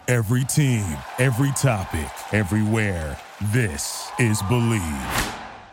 Every team, every topic, everywhere. This is Believe.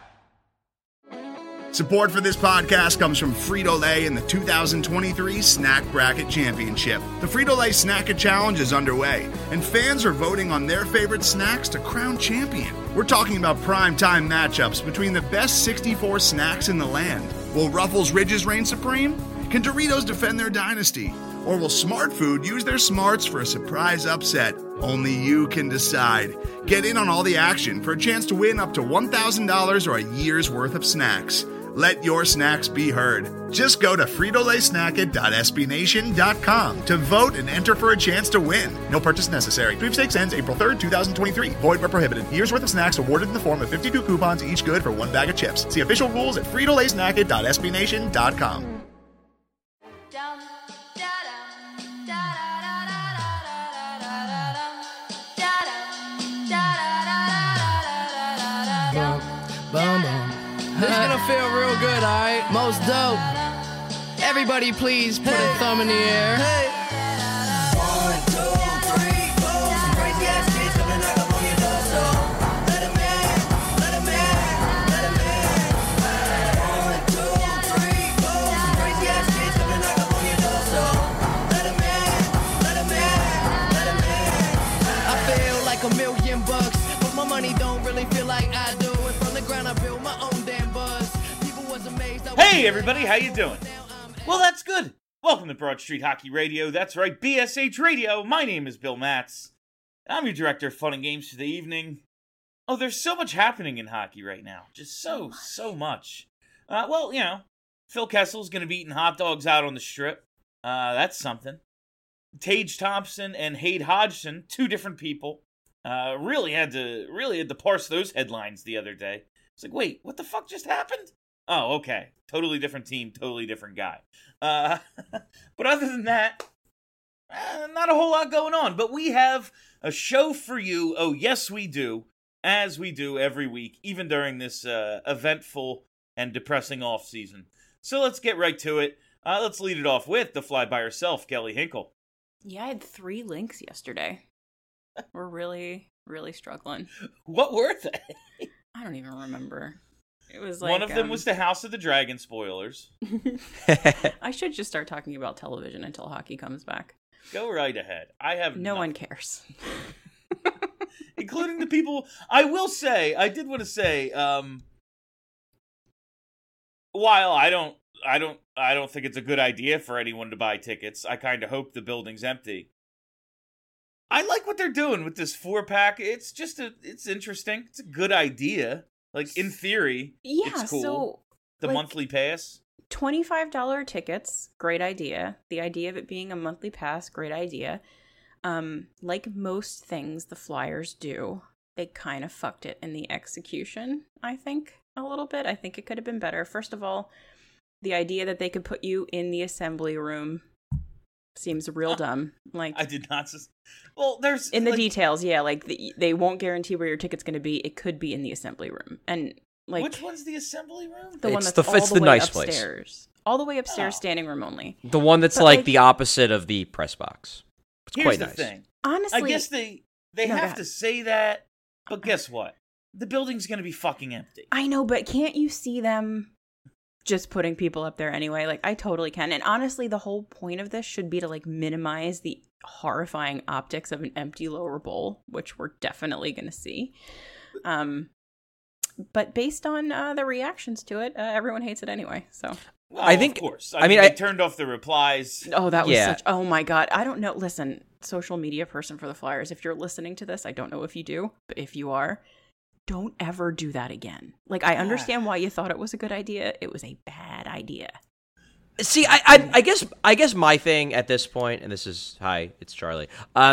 Support for this podcast comes from Frito-Lay and the 2023 Snack Bracket Championship. The Frito-Lay Snack-It Challenge is underway, and fans are voting on their favorite snacks to crown champion. We're talking about prime-time matchups between the best 64 snacks in the land. Will Ruffles Ridges reign supreme? Can Doritos defend their dynasty? Or will Smart Food use their smarts for a surprise upset? Only you can decide. Get in on all the action for a chance to win up to $1,000 or a year's worth of snacks. Let your snacks be heard. Just go to fritolaysnacket.sbnation.com to vote and enter for a chance to win. No purchase necessary. Sweepstakes ends April 3rd, 2023. Void where prohibited. Year's worth of snacks awarded in the form of 52 coupons, each good for one bag of chips. See official rules at fritolaysnacket.sbnation.com. This is gonna feel real good, alright? Most dope. Everybody please put a thumb in the air. Hey. 1, 2, 3, 4. Some crazy ass kids coming knock up on your door, so let 'em in, let 'em in, let 'em in. 1, 2, 3, 4. Some crazy ass kids coming knock up on your door, so let 'em in, let 'em in, let 'em in. I feel like $1,000,000, but my money don't really feel like I do. And from the ground I built my own damn buzz. People was amazed. Hey everybody, how you doing? Well, that's good. Welcome to Broad Street Hockey Radio. That's right, BSH Radio. My name is Bill Matz. I'm your director of fun and games for the evening. Oh, there's so much happening in hockey right now. Just so much. Well, you know, Phil Kessel's going to be eating hot dogs out on the strip. That's something. Tage Thompson and Hayde Hodgson, two different people, really had to parse those headlines the other day. It's like, wait, what the fuck just happened? Oh, okay. Totally different team, totally different guy. But other than that, not a whole lot going on. But we have a show for you. Oh, yes, we do. As we do every week, even during this eventful and depressing off season. So let's get right to it. Let's lead it off with the fly by herself, Kelly Hinkle. Yeah, I had 3 links yesterday. We're really, really struggling. What were they? I don't even remember. It was like one of them was the House of the Dragon spoilers. I should just start talking about television until hockey comes back. Go right ahead. I have no one cares. Including the people. I did want to say, while I don't think it's a good idea for anyone to buy tickets. I kind of hope the building's empty. I like what they're doing with this 4-pack. It's interesting. It's a good idea. Like, in theory, yeah, it's cool. So, the monthly pass. $25 tickets, great idea. The idea of it being a monthly pass, great idea. Like most things the Flyers do, they kind of fucked it in the execution, I think, a little bit. I think it could have been better. First of all, the idea that they could put you in the assembly room seems real dumb. Like, I did not. Well, there's in the details, yeah. Like they won't guarantee where your ticket's going to be. It could be in the assembly room, and like which one's the assembly room? The one that's all the way nice upstairs, all the way upstairs, standing room only. The one that's like the opposite of the press box. It's quite nice. Here's the thing. Honestly, I guess they have to say that, but guess what? The building's going to be fucking empty. I know, but can't you see them just putting people up there anyway? Like, I totally can. And honestly, the whole point of this should be to, like, minimize the horrifying optics of an empty lower bowl, which we're definitely going to see. But based on the reactions to it, everyone hates it anyway, so... Well, I think, of course. I mean, I turned off the replies. Oh, that was such... Oh, my God. I don't know. Listen, social media person for the Flyers, if you're listening to this, I don't know if you do, but if you are... Don't ever do that again. Like, I understand why you thought it was a good idea. It was a bad idea. See, I guess my thing at this point, and this is hi, it's Charlie.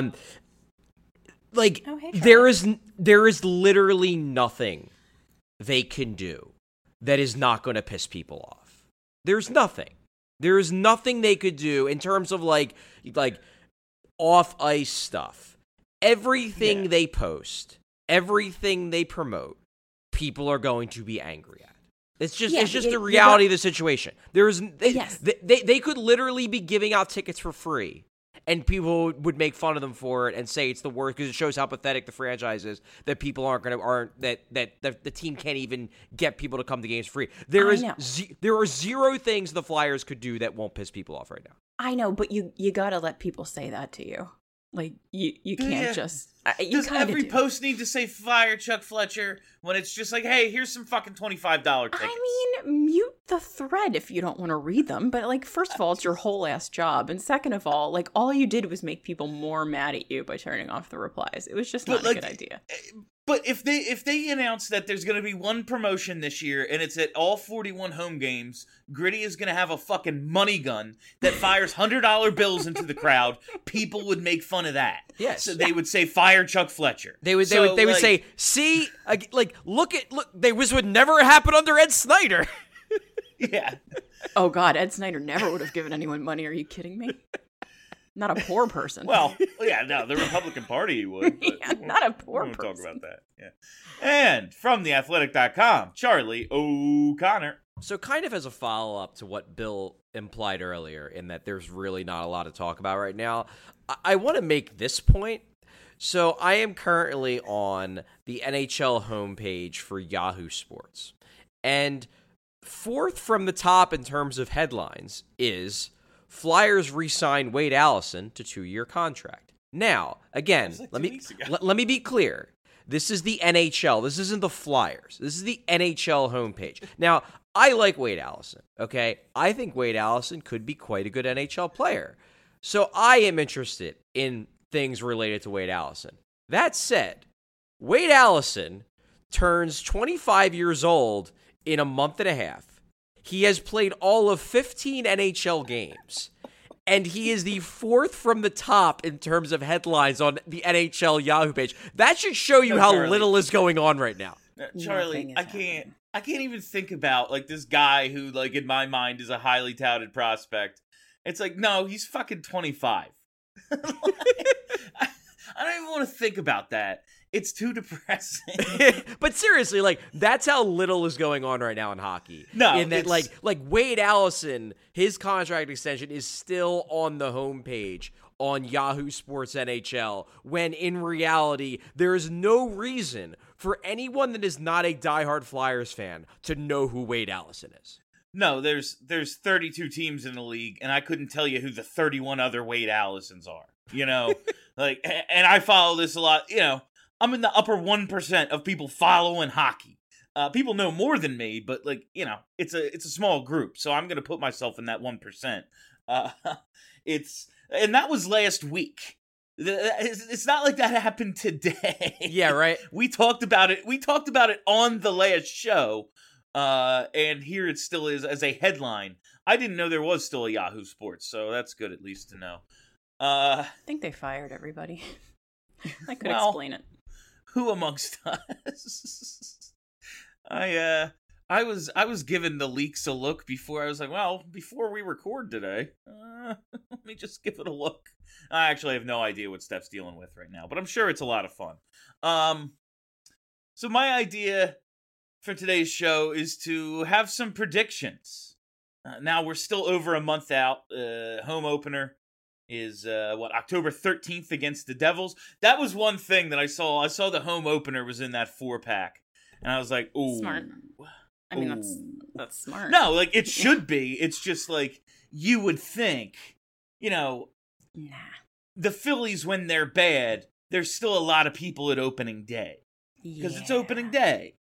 Like, oh, hey, Charlie. there is literally nothing they can do that is not going to piss people off. There's nothing. There is nothing they could do in terms of like off ice stuff. Everything they post. Everything they promote, people are going to be angry at. It's just the reality of the situation. They could literally be giving out tickets for free, and people would make fun of them for it and say it's the worst because it shows how pathetic the franchise is that people that the team can't even get people to come to games free. There are zero things the Flyers could do that won't piss people off right now. I know, but you gotta let people say that to you. Like, you can't just... Does every post need to say fire Chuck Fletcher when it's just like, hey, here's some fucking $25 tickets? I mean, mute the thread if you don't want to read them. But, like, first of all, it's your whole ass job. And second of all, like, all you did was make people more mad at you by turning off the replies. It was just not a good idea. But if they announce that there's going to be one promotion this year and it's at all 41 home games, Gritty is going to have a fucking money gun that fires $100 bills into the crowd, people would make fun of that. Yes. So they would say fire Chuck Fletcher. They would say, see, like look, this would never happen under Ed Snyder. Yeah. Oh God, Ed Snyder never would have given anyone money. Are you kidding me? Not a poor person. Well, yeah, no, the Republican Party would. But yeah, not a poor person. We won't talk about that. Yeah. And from theathletic.com, Charlie O'Connor. So kind of as a follow-up to what Bill implied earlier in that there's really not a lot to talk about right now, I want to make this point. So I am currently on the NHL homepage for Yahoo Sports. And fourth from the top in terms of headlines is Flyers re-sign Wade Allison to 2-year contract. Now, again, let me be clear. This is the NHL. This isn't the Flyers. This is the NHL homepage. Now, I like Wade Allison, okay? I think Wade Allison could be quite a good NHL player. So I am interested in things related to Wade Allison. That said, Wade Allison turns 25 years old in a month and a half. He has played all of 15 NHL games, and he is the fourth from the top in terms of headlines on the NHL Yahoo page. That should show you how Charlie, little is going on right now. Charlie, I can't even think about, like, this guy who, like, in my mind is a highly touted prospect. It's like, no, he's fucking 25. I don't even want to think about that. It's too depressing. But seriously, like, that's how little is going on right now in hockey. No, in that, like Wade Allison, his contract extension is still on the homepage on Yahoo Sports NHL, when in reality, there is no reason for anyone that is not a diehard Flyers fan to know who Wade Allison is. No, there's 32 teams in the league, and I couldn't tell you who the 31 other Wade Allisons are. You know, like, and I follow this a lot. You know, I'm in the upper 1% of people following hockey. People know more than me, but, like, you know, it's a small group, so I'm gonna put myself in that 1%. And that was last week. It's not like that happened today. Yeah, right. We talked about it. We talked about it on the last show. And here it still is as a headline. I didn't know there was still a Yahoo Sports, so that's good at least to know. I think they fired everybody. I could explain it. Who amongst us? I was giving the leaks a look before. I was like, well, before we record today, let me just give it a look. I actually have no idea what Steph's dealing with right now, but I'm sure it's a lot of fun. So my idea for today's show is to have some predictions. Now we're still over a month out. Home opener is October 13th against the Devils. That was one thing that I saw. I saw the home opener was in that 4-pack, and I was like, "Ooh, smart." I mean, that's smart. No, like, it should be. It's just like, you would think, you know, the Phillies, when they're bad, there's still a lot of people at opening day because it's opening day.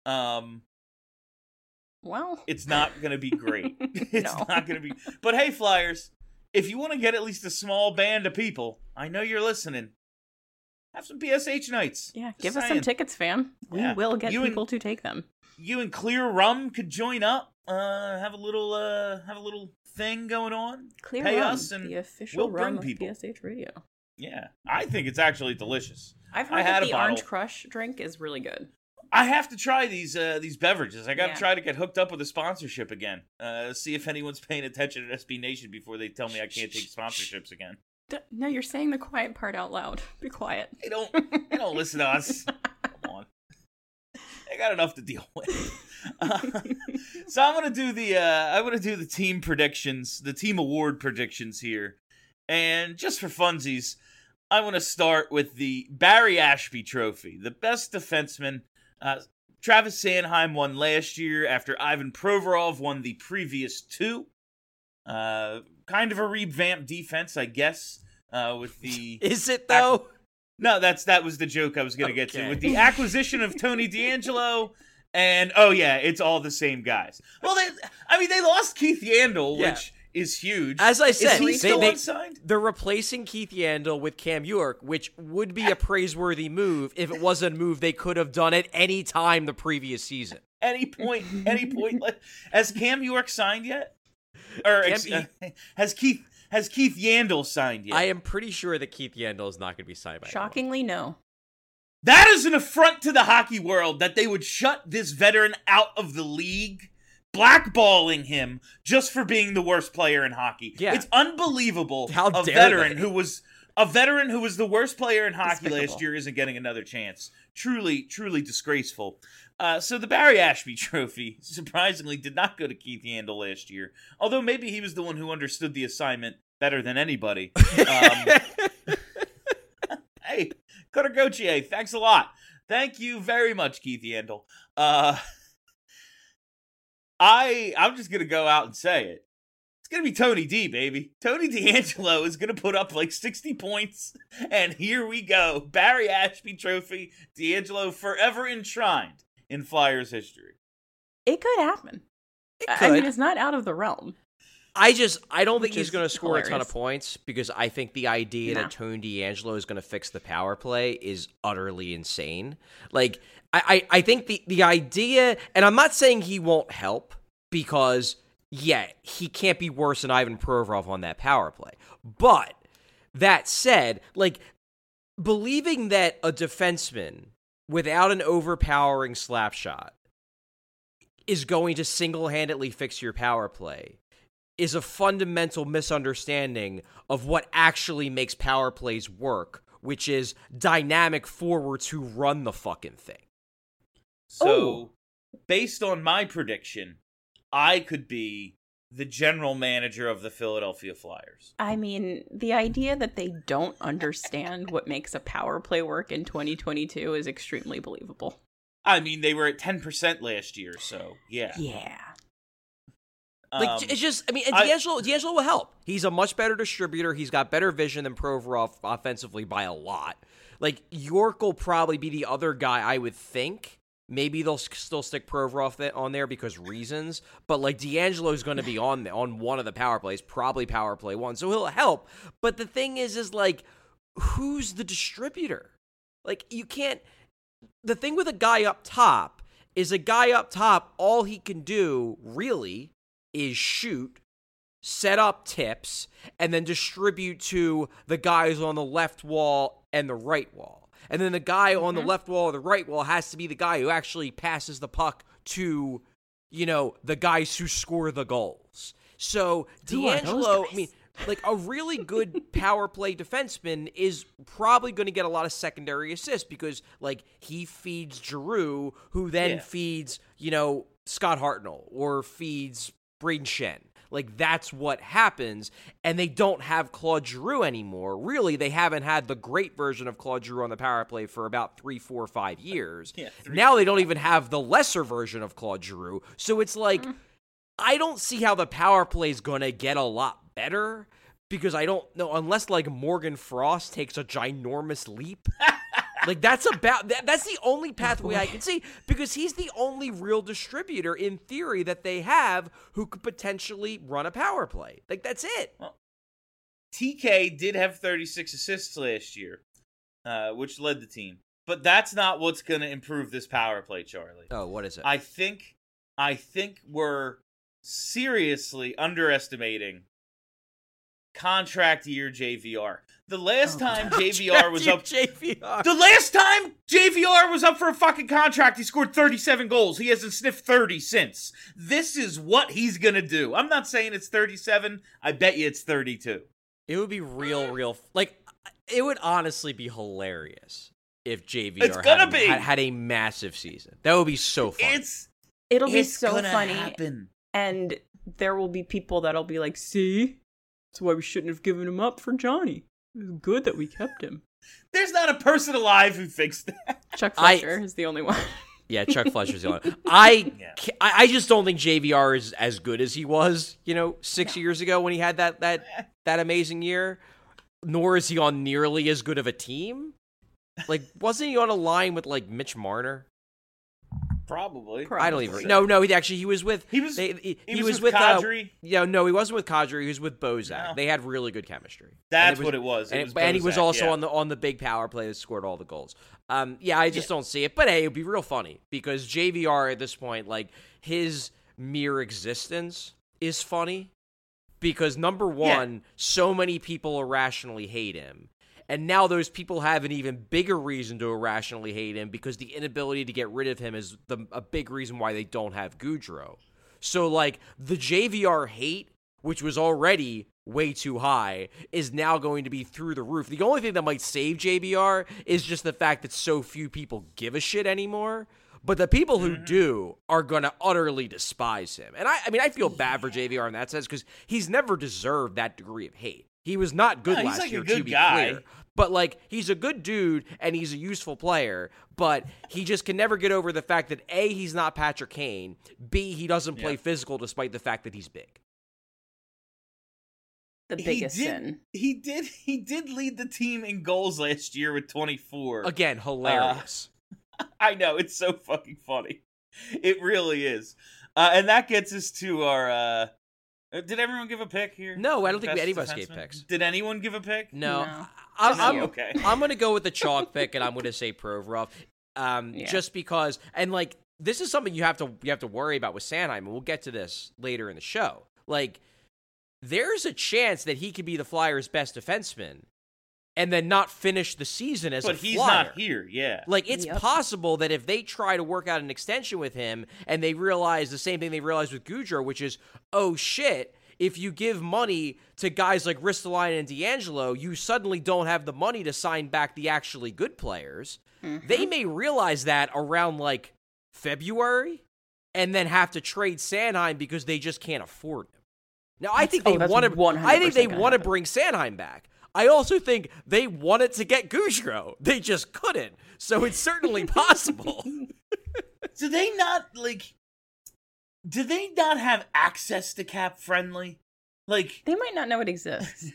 Well, it's not going to be great. It's No. not going to be. But hey, Flyers, if you want to get at least a small band of people, I know you're listening. Have some PSH nights. Yeah, Just give us saying. some tickets, fam. We Yeah. will get You and- people to take them. You and Clear Rum could join up. Have a little thing going on. Clear Pay Rum, us, and the official we'll bring rum of people. PSH Radio. Yeah, I think it's actually delicious. I've I heard had that a the bottle. Orange Crush drink is really good. I have to try these beverages. I got to Yeah. try to get hooked up with a sponsorship again. See if anyone's paying attention at SB Nation before they tell me I can't take sponsorships again. No, you're saying the quiet part out loud. Be quiet. They don't listen to us. Come on, I got enough to deal with. So I'm gonna do the team predictions, the team award predictions here, And just for funsies, I want to start with the Barry Ashby Trophy, the best defenseman. Travis Sanheim won last year after Ivan Provorov won the previous two. Kind of a revamped defense, I guess, with the... Is it, though? No, that was the joke I was going to get to. Okay. With the acquisition of Tony DeAngelo, and, oh yeah, it's all the same guys. Well, they lost Keith Yandel, which is huge. As I said, is he still unsigned? They're replacing Keith Yandel with Cam York, which would be a praiseworthy move if it was a move they could have done at any time the previous season. Any point. Has Cam York signed yet? Or has Keith Yandel signed yet? I am pretty sure that Keith Yandel is not going to be signed by Shockingly, no. That is an affront to the hockey world that they would shut this veteran out of the league, blackballing him just for being the worst player in hockey. Yeah. It's unbelievable. How a dare veteran they? who was the worst player in hockey Despicable. last year isn't getting another chance. Truly, truly disgraceful. So the Barry Ashby Trophy, surprisingly, did not go to Keith Yandel last year. Although maybe he was the one who understood the assignment better than anybody. Hey, Cutter Gauthier, thanks a lot. Thank you very much, Keith Yandel. I'm just going to go out and say it. It's going to be Tony D, baby. Tony DeAngelo is going to put up like 60 points, and here we go. Barry Ashby Trophy, DeAngelo forever enshrined in Flyers history. It could happen. It I mean, could. it's not out of the realm. I don't think Which he's is going to score a ton of hilarious. points because I think the idea Nah. that Tony DeAngelo is going to fix the power play is utterly insane. Like, I think the idea, and I'm not saying he won't help because, yeah, he can't be worse than Ivan Provorov on that power play. But that said, like, believing that a defenseman without an overpowering slap shot is going to single-handedly fix your power play is a fundamental misunderstanding of what actually makes power plays work, which is dynamic forwards who run the fucking thing. So, based on my prediction, I could be the general manager of the Philadelphia Flyers. I mean, the idea that they don't understand what makes a power play work in 2022 is extremely believable. I mean, they were at 10% last year, so yeah. Yeah. Like, it's just, I mean, and D'Angelo will help. He's a much better distributor. He's got better vision than Provorov offensively by a lot. Like, York will probably be the other guy, I would think. Maybe they'll still stick Provorov on there because reasons. But, like, D'Angelo's going to be on one of the power plays, probably power play one. So he'll help. But the thing is like, who's the distributor? Like, you can't... The thing with a guy up top is all he can do, really, is shoot, set up tips, and then distribute to the guys on the left wall and the right wall. And then the guy on the left wall or the right wall has to be the guy who actually passes the puck to, the guys who score the goals. So Who are those D'Angelo, guys? I mean, like a really good power play defenseman is probably going to get a lot of secondary assists because, like, he feeds Giroux, who then feeds, Scott Hartnell or feeds Braden Shen. Like, that's what happens, and they don't have Claude Giroux anymore. Really, they haven't had the great version of Claude Giroux on the power play for about 3, 4, 5 years. Now they don't even have the lesser version of Claude Giroux. So it's like, I don't see how the power play is going to get a lot better because I don't know, unless, like, Morgan Frost takes a ginormous leap. Like, that's the only pathway I can see because he's the only real distributor in theory that they have who could potentially run a power play. Like, that's it. Well, TK did have 36 assists last year, which led the team. But that's not what's going to improve this power play, Charlie. Oh, what is it? I think we're seriously underestimating contract year JVR. The last time JVR was up JVR. The last time JVR was up for a fucking contract, he scored 37 goals. He hasn't sniffed 30 since. This is what he's going to do. I'm not saying it's 37. I bet you it's 32. It would be real like, it would honestly be hilarious if JVR had a massive season. That would be so fun. It'll be It's so gonna funny. happen. And there will be people that'll be like, see? That's why we shouldn't have given him up for Johnny. It was good that we kept him. There's not a person alive who thinks that. Chuck Fletcher is the only one. Yeah, Chuck Fletcher's the only one. I just don't think JVR is as good as he was, 6 years ago when he had that amazing year. Nor is he on nearly as good of a team. Like, wasn't he on a line with, like, Mitch Marner? Probably. I don't even. No. He was with. He was with Kadri. No, he wasn't with Kadri. He was with Bozak. No. They had really good chemistry. That's what it was. And he was also on the big power play that scored all the goals. I just don't see it. But hey, it'd be real funny because JVR at this point, like his mere existence is funny because number one, so many people irrationally hate him. And now those people have an even bigger reason to irrationally hate him because the inability to get rid of him is a big reason why they don't have Gaudreau. So, like, the JVR hate, which was already way too high, is now going to be through the roof. The only thing that might save JVR is just the fact that so few people give a shit anymore. But the people who do are going to utterly despise him. And I feel bad for JVR in that sense because he's never deserved that degree of hate. He was not good last year, to be clear. But, like, he's a good dude, and he's a useful player, but he just can never get over the fact that, A, he's not Patrick Kane, B, he doesn't play physical despite the fact that he's big. The biggest sin. He did lead the team in goals last year with 24. Again, hilarious. I know, it's so fucking funny. It really is. And that gets us to our... did everyone give a pick here? No, I don't think any of us gave picks. Did anyone give a pick? No. Okay. I'm going to go with the chalk pick, and I'm going to say Provorov, just because. And like, this is something you have to worry about with Sanheim, and we'll get to this later in the show. Like, there's a chance that he could be the Flyers' best defenseman, and then not finish the season as a Flyer. But he's not here, yeah. Like, it's possible that if they try to work out an extension with him and they realize the same thing they realized with Gaudreau, which is, oh shit, if you give money to guys like Ristolainen and D'Angelo, you suddenly don't have the money to sign back the actually good players. They may realize that around, like, February and then have to trade Sanheim because they just can't afford him. Now, I think they want to bring Sanheim back. I also think they wanted to get Gaudreau. They just couldn't. So it's certainly possible. Do they not have access to Cap Friendly? Like, they might not know it exists.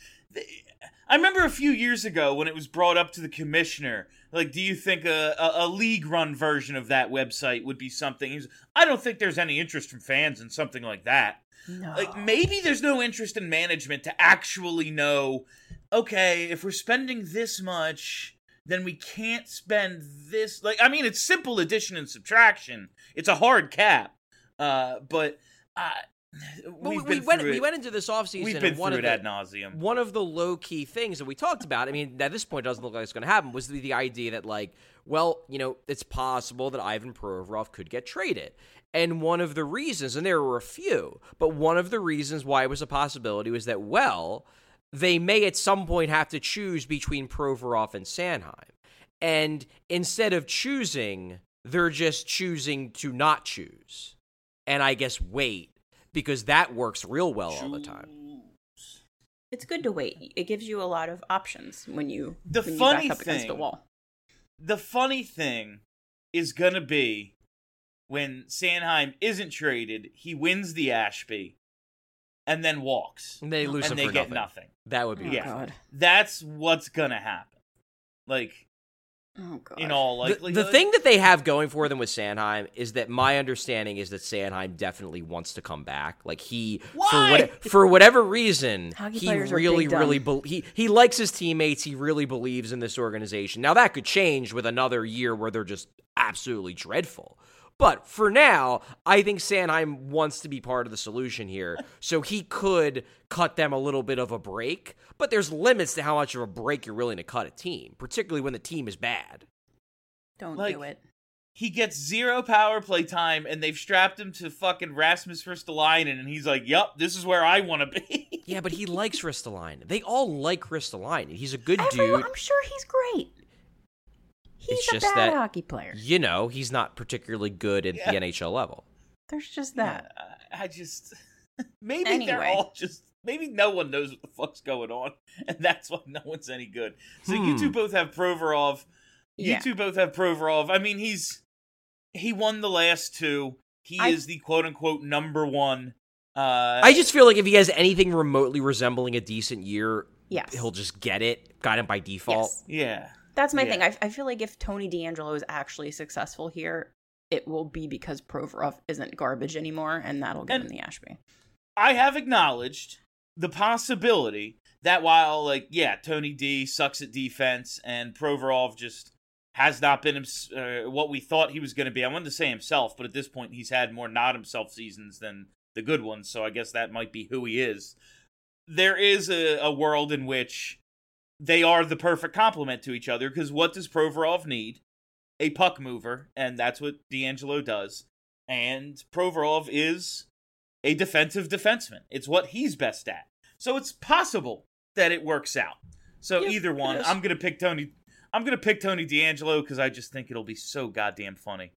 I remember a few years ago when it was brought up to the commissioner, like, do you think a league-run version of that website would be something? I don't think there's any interest from fans in something like that. No. Like, maybe there's no interest in management to actually know, okay, if we're spending this much, then we can't spend this. Like, I mean, it's simple addition and subtraction. It's a hard cap. But we went into this offseason. We've been through it ad nauseum. One of the low-key things that we talked about, I mean, at this point it doesn't look like it's going to happen, was the idea that, like, well, it's possible that Ivan Provorov could get traded. And one of the reasons, and there were a few, but one of the reasons why it was a possibility was that, well, they may at some point have to choose between Provorov and Sanheim. And instead of choosing, they're just choosing to not choose. And I guess wait, because that works real well all the time. It's good to wait. It gives you a lot of options when you back up against the wall. The funny thing is going to be when Sanheim isn't traded, he wins the Ashby and then walks. And they lose him and for they get nothing. That would be God. That's what's going to happen. Like, oh, God. In all likelihood. The thing that they have going for them with Sanheim is that my understanding is that Sanheim definitely wants to come back. Like, for whatever reason, he really he likes his teammates. He really believes in this organization. Now, that could change with another year where they're just absolutely dreadful. But for now, I think Sanheim wants to be part of the solution here, so he could cut them a little bit of a break, but there's limits to how much of a break you're willing to cut a team, particularly when the team is bad. Don't do it. He gets 0 power play time, and they've strapped him to fucking Rasmus Ristolainen, and he's like, yup, this is where I want to be. Yeah, but he likes Ristolainen. They all like Ristolainen. He's a good dude. I'm sure he's great. He's it's a just bad that, hockey player. He's not particularly good at the NHL level. There's just that. Maybe they're all just maybe no one knows what the fuck's going on, and that's why no one's any good. So you two both have Provorov. You two both have Provorov. I mean, he won the last two. He is the quote-unquote number one. I just feel like if he has anything remotely resembling a decent year, Yes. he'll just get it. Got him by default. Yes. Yeah. That's my thing. I feel like if Tony DeAngelo is actually successful here, it will be because Provorov isn't garbage anymore, and that'll give him the Ashby. I have acknowledged the possibility that while, like, yeah, Tony D sucks at defense and Provorov just has not been what we thought he was going to be. I wanted to say himself, but at this point he's had more not himself seasons than the good ones, so I guess that might be who he is. There is a world in which they are the perfect complement to each other, because what does Provorov need? A puck mover, and that's what DeAngelo does. And Provorov is a defensive defenseman. It's what he's best at. So it's possible that it works out. So either one, I'm gonna pick Tony DeAngelo because I just think it'll be so goddamn funny.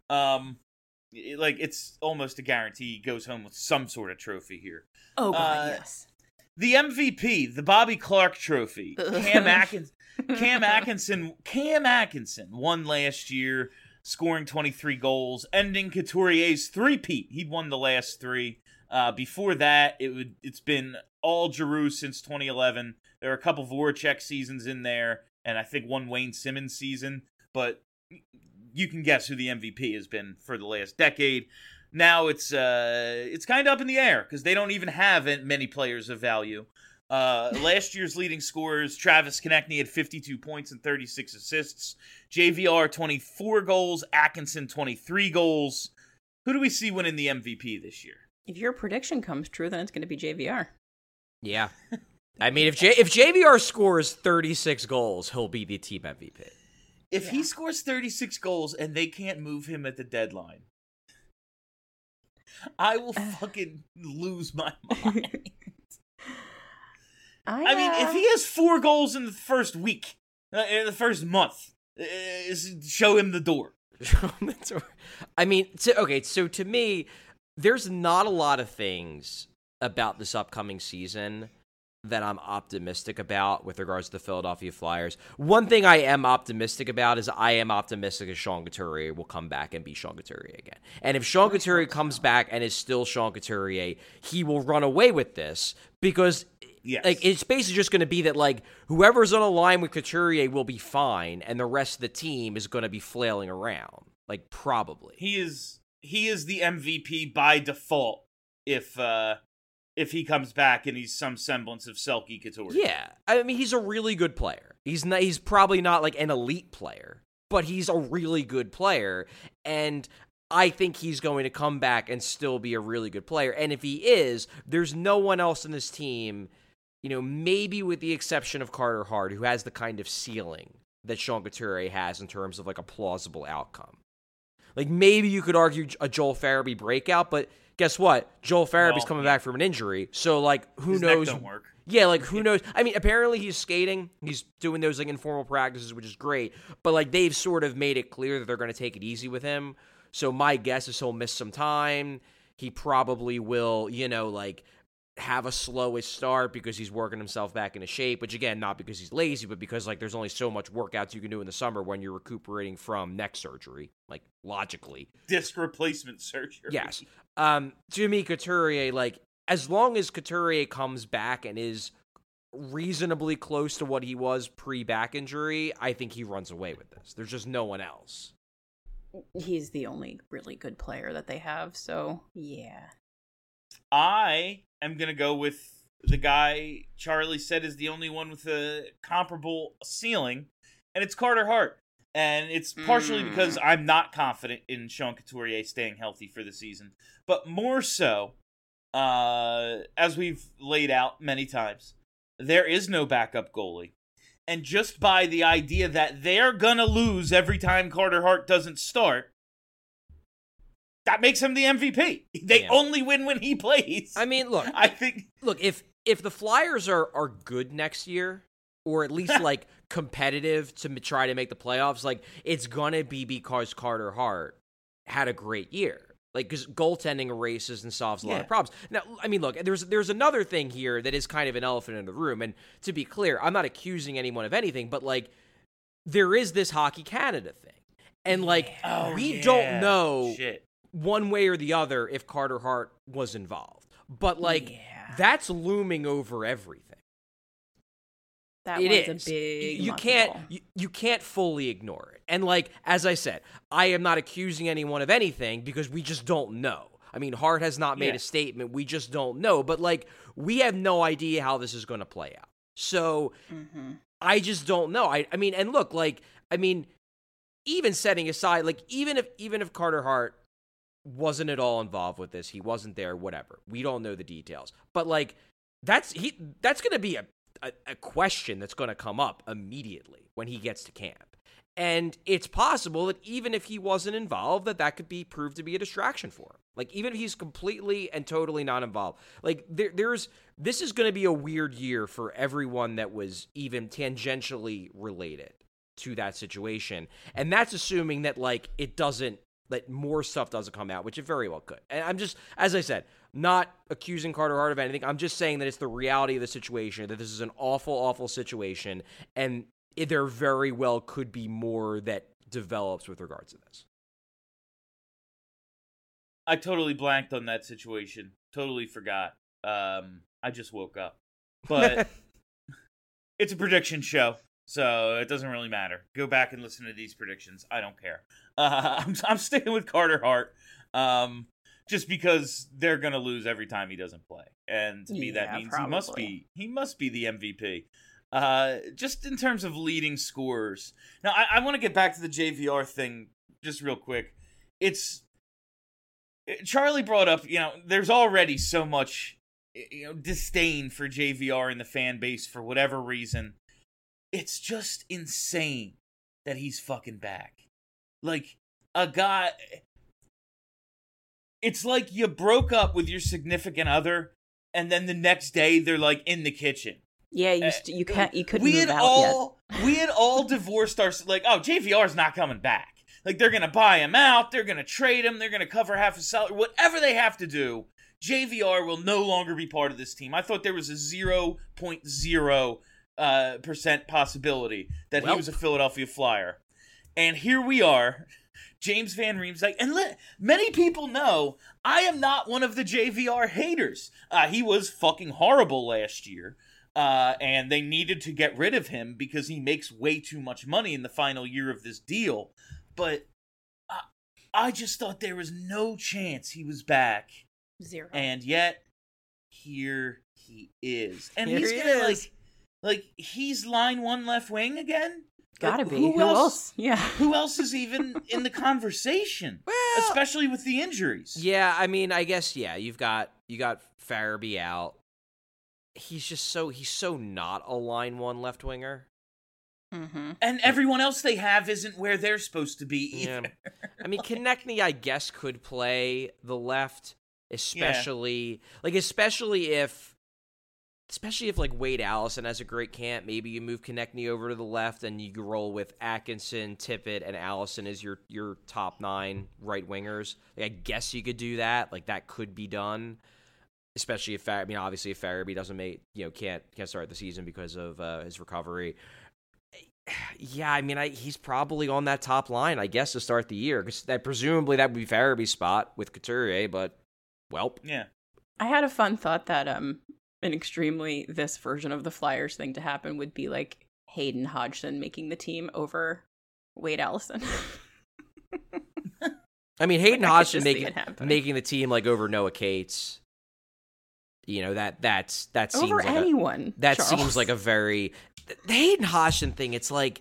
It's almost a guarantee he goes home with some sort of trophy here. Oh god, yes. The MVP, the Bobby Clark Trophy. Cam Atkinson won last year, scoring 23 goals, ending Couturier's three-peat. He'd won the last three. Before that, it's been all Giroux since 2011. There are a couple Voracek seasons in there, and I think one Wayne Simmons season. But you can guess who the MVP has been for the last decade. Now it's kind of up in the air because they don't even have many players of value. Last year's leading scorers, Travis Konechny had 52 points and 36 assists. JVR 24 goals, Atkinson 23 goals. Who do we see winning the MVP this year? If your prediction comes true, then it's going to be JVR. Yeah. I mean, if JVR scores 36 goals, he'll be the team MVP. If he scores 36 goals and they can't move him at the deadline, I will fucking lose my mind. I mean, if he has 4 goals in the first week, in the first month, show him the door. I mean, so to me, there's not a lot of things about this upcoming season that I'm optimistic about with regards to the Philadelphia Flyers. One thing I am optimistic about is I am optimistic that Sean Couturier will come back and be Sean Couturier again. And if Sean Couturier comes back and is still Sean Couturier, he will run away with this because it's basically just going to be that like whoever's on a line with Couturier will be fine and the rest of the team is going to be flailing around. Like probably. He is the MVP by default if he comes back and he's some semblance of Selke Couturier. Yeah. I mean, he's a really good player. He's probably not like an elite player, but he's a really good player. And I think he's going to come back and still be a really good player. And if he is, there's no one else in this team, maybe with the exception of Carter Hart, who has the kind of ceiling that Sean Couturier has in terms of like a plausible outcome. Like maybe you could argue a Joel Farabee breakout, but guess what? Joel Farabee's coming back from an injury, so like who His knows? neck don't work. Yeah, like who knows? I mean, apparently he's skating. He's doing those like informal practices, which is great. But like they've sort of made it clear that they're going to take it easy with him. So my guess is he'll miss some time. He probably will, like have a slowest start because he's working himself back into shape, which again, not because he's lazy, but because like there's only so much workouts you can do in the summer when you're recuperating from neck surgery, like logically. Disc replacement surgery. Yes. To me, Couturier, like as long as Couturier comes back and is reasonably close to what he was pre-back injury, I think he runs away with this. There's just no one else. He's the only really good player that they have, so yeah. I am going to go with the guy Charlie said is the only one with a comparable ceiling, and it's Carter Hart. And it's partially because I'm not confident in Sean Couturier staying healthy for the season, but more so, as we've laid out many times, there is no backup goalie. And just by the idea that they're going to lose every time Carter Hart doesn't start, that makes him the MVP. They only win when he plays. I mean, look, if the Flyers are good next year, or at least like competitive to try to make the playoffs, like it's gonna be because Carter Hart had a great year. Like, because goaltending erases and solves a lot of problems. Now, I mean, look, there's another thing here that is kind of an elephant in the room. And to be clear, I'm not accusing anyone of anything, but, like, there is this Hockey Canada thing. And, like, we don't know one way or the other if Carter Hart was involved. But, like, that's looming over everything. That it was is. a big You can't fully ignore it. And, like, as I said, I am not accusing anyone of anything because we just don't know. I mean, Hart has not made a statement. We just don't know. But, like, we have no idea how this is going to play out. So, I just don't know. I mean, and look, like, I mean, even setting aside, like, even if Carter Hart wasn't at all involved with this, he wasn't there, whatever. We don't know the details. But, like, that's going to be a question that's going to come up immediately when he gets to camp. And it's possible that even if he wasn't involved, that could be proved to be a distraction for him. Like, even if he's completely and totally not involved. Like, this is going to be a weird year for everyone that was even tangentially related to that situation. And that's assuming that, like, that more stuff doesn't come out, which it very well could. And I'm just, as I said, not accusing Carter Hart of anything. I'm just saying that it's the reality of the situation, that this is an awful, awful situation, and there very well could be more that develops with regards to this. I totally blanked on that situation. Totally forgot. I just woke up. But it's a prediction show, so it doesn't really matter. Go back and listen to these predictions. I don't care. I'm sticking with Carter Hart. Just because they're gonna lose every time he doesn't play, and to me that means he must be the MVP. Just in terms of leading scorers. Now, I want to get back to the JVR thing just real quick. Charlie brought up, there's already so much, disdain for JVR in the fan base for whatever reason. It's just insane that he's fucking back. Like, a guy. It's like you broke up with your significant other, and then the next day they're like in the kitchen. Yeah, you couldn't move out yet. We had all divorced ourselves. Like, oh, JVR's not coming back. Like, they're gonna buy him out. They're gonna trade him. They're gonna cover half his salary. Whatever they have to do, JVR will no longer be part of this team. I thought there was a 0.0% possibility that he was a Philadelphia Flyer, and here we are. James Van Riemsdyk, and many people know I am not one of the JVR haters. He was fucking horrible last year, and they needed to get rid of him because he makes way too much money in the final year of this deal. But I just thought there was no chance he was back. Zero. And yet, here he is. And Here he's he gonna, is. like, he's line one left wing again? Gotta be. Who else? Yeah. Who else is even in the conversation? Well, especially with the injuries. Yeah, I mean, I guess you got Farabee out. He's so not a line one left winger. Mm-hmm. And everyone else they have isn't where they're supposed to be either. Yeah. I mean, Konechny, I guess, could play the left, especially if like Wade Allison has a great camp. Maybe you move Konechny over to the left and you roll with Atkinson, Tippett, and Allison as your top 9 right wingers. Like, I guess you could do that. Like, that could be done. Especially if obviously if Farabee doesn't can't start the season because of his recovery. Yeah, I mean, he's probably on that top line, I guess, to start the year, because presumably that would be Farabee's spot with Couturier. But yeah. I had a fun thought that this version of the Flyers thing to happen would be like Hayden Hodgson making the team over Wade Allison. I mean, Hayden Hodgson making the team like over Noah Cates. That seems over like anyone. That Charles. seems like a very the Hayden Hodgson thing. It's like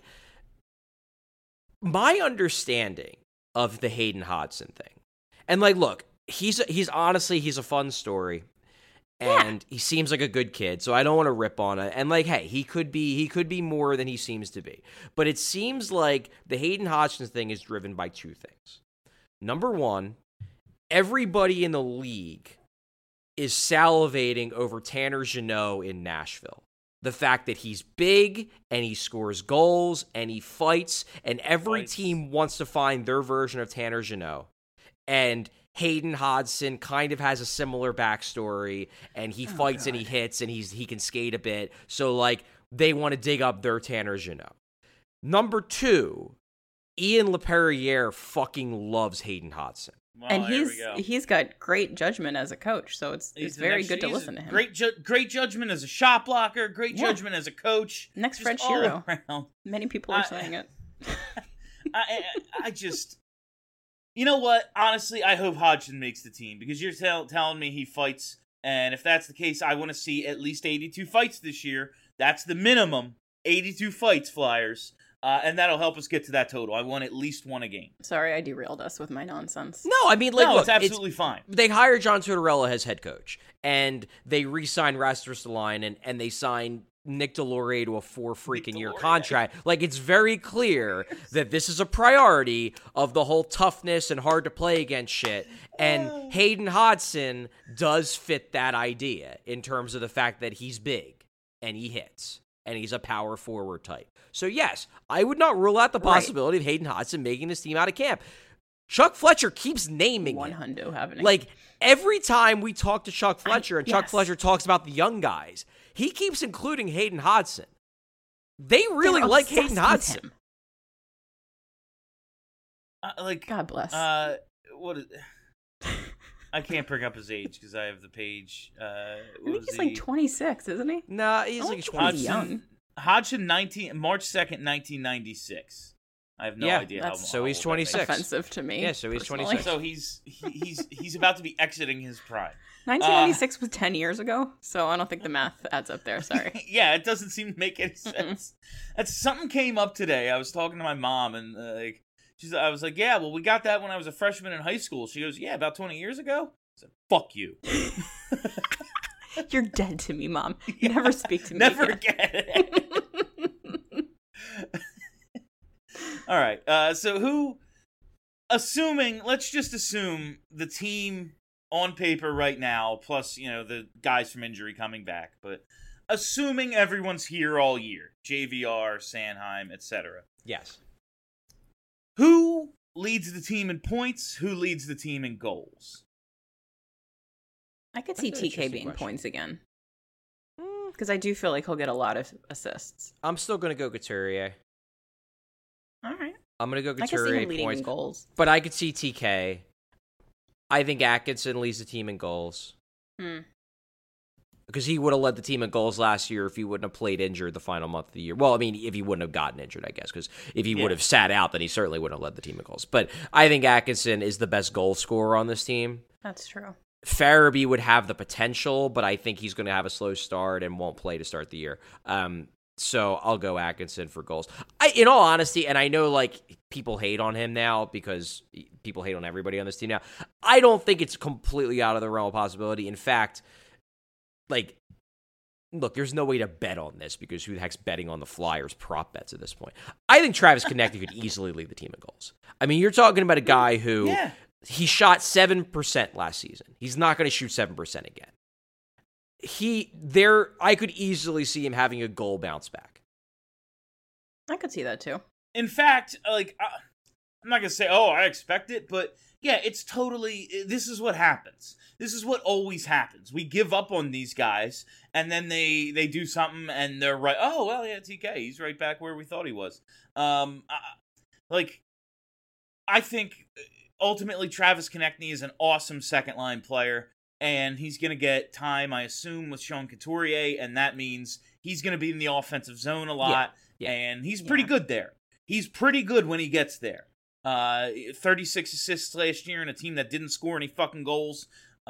my understanding of the Hayden Hodgson thing, and like, look, he's a fun story. And he seems like a good kid, so I don't want to rip on it. And like, hey, he could be more than he seems to be. But it seems like the Hayden Hodgson thing is driven by two things. Number one, everybody in the league is salivating over Tanner Jeannot in Nashville. The fact that he's big and he scores goals and he fights, and every team wants to find their version of Tanner Jeannot. And Hayden Hodgson kind of has a similar backstory, and he fights and he hits, and he can skate a bit. So, like, they want to dig up their Tanner Jeannot. Number 2, Ian LePerriere fucking loves Hayden Hodgson. Well, And there we go. he's got great judgment as a coach, so it's He's the very next- good to he's listen to him. Great judgment as a shot blocker. Great Yeah. judgment as a coach. Next just French all hero. around. Many people are saying it. I just, you know what? Honestly, I hope Hodgson makes the team because you're telling me he fights, and if that's the case, I want to see at least 82 fights this year. That's the minimum, 82 fights, Flyers, and that'll help us get to that total. I want at least one a game. Sorry, I derailed us with my nonsense. No, I mean, like, No, look, it's absolutely fine. They hire John Tortorella as head coach, and they re-sign Rasmus Ristolainen, and they sign Nick Deslauriers to a 4-freaking-year contract. Like, it's very clear that this is a priority of the whole toughness and hard to play against shit. And Hayden Hodgson does fit that idea in terms of the fact that he's big and he hits and he's a power forward type. So yes, I would not rule out the possibility of Hayden Hodgson making this team out of camp. Chuck Fletcher keeps naming One him. hundo happening. Like, every time we talk to Chuck Fletcher and Chuck yes. Fletcher talks about the young guys, he keeps including Hayden Hodgson. They really They're like obsessed Hayden with Hodgson. him. God bless. What is, I can't bring up his age because I have the page. I think he's like 26, isn't he? Nah, he's I like don't 20. think he's young. Hodgson, March 2nd, 1996. I have no Yeah, idea that's- how so he's how old that makes 26. Offensive to me. Yeah, so he's personally. 26. So he's about to be exiting his prime. 1996 was 10 years ago, so I don't think the math adds up there. Sorry. Yeah, it doesn't seem to make any sense. That's something came up today. I was talking to my mom, and I was like, "Yeah, well, we got that when I was a freshman in high school." She goes, "Yeah, about 20 years ago." I said, "Fuck you." You're dead to me, Mom. Never speak to me. Never again. again. All right. So let's just assume the team on paper right now, plus, the guys from injury coming back, but assuming everyone's here all year, JVR, Sanheim, etc. Yes. Who leads the team in points? Who leads the team in goals? I could see That's an TK interesting being question. points again. Because I do feel like he'll get a lot of assists. I'm still going to go Couturier. All right. I'm going to go I can see Couturier him leading points. in goals. But I could see TK. I think Atkinson leads the team in goals. Because he would have led the team in goals last year if he wouldn't have played injured the final month of the year. Well, I mean, if he wouldn't have gotten injured, I guess. Because if he would have sat out, then he certainly wouldn't have led the team in goals. But I think Atkinson is the best goal scorer on this team. That's true. Farabee would have the potential, but I think he's going to have a slow start and won't play to start the year. So I'll go Atkinson for goals. In all honesty, and I know like people hate on him now because people hate on everybody on this team now. I don't think it's completely out of the realm of possibility. In fact, like, look, there's no way to bet on this because who the heck's betting on the Flyers prop bets at this point? I think Travis Konecny could easily lead the team in goals. I mean, you're talking about a guy who he shot 7% last season. He's not going to shoot 7% again. I could easily see him having a goal bounce back. I could see that too. In fact, like, I'm not going to say, oh, I expect it, but yeah, it's totally, this is what happens. This is what always happens. We give up on these guys, and then they do something, and they're right. Oh, well, yeah, TK, he's right back where we thought he was. I think ultimately Travis Konecny is an awesome second-line player, and he's going to get time, I assume, with Sean Couturier, and that means he's going to be in the offensive zone a lot, and he's pretty good there. He's pretty good when he gets there. 36 assists last year in a team that didn't score any fucking goals.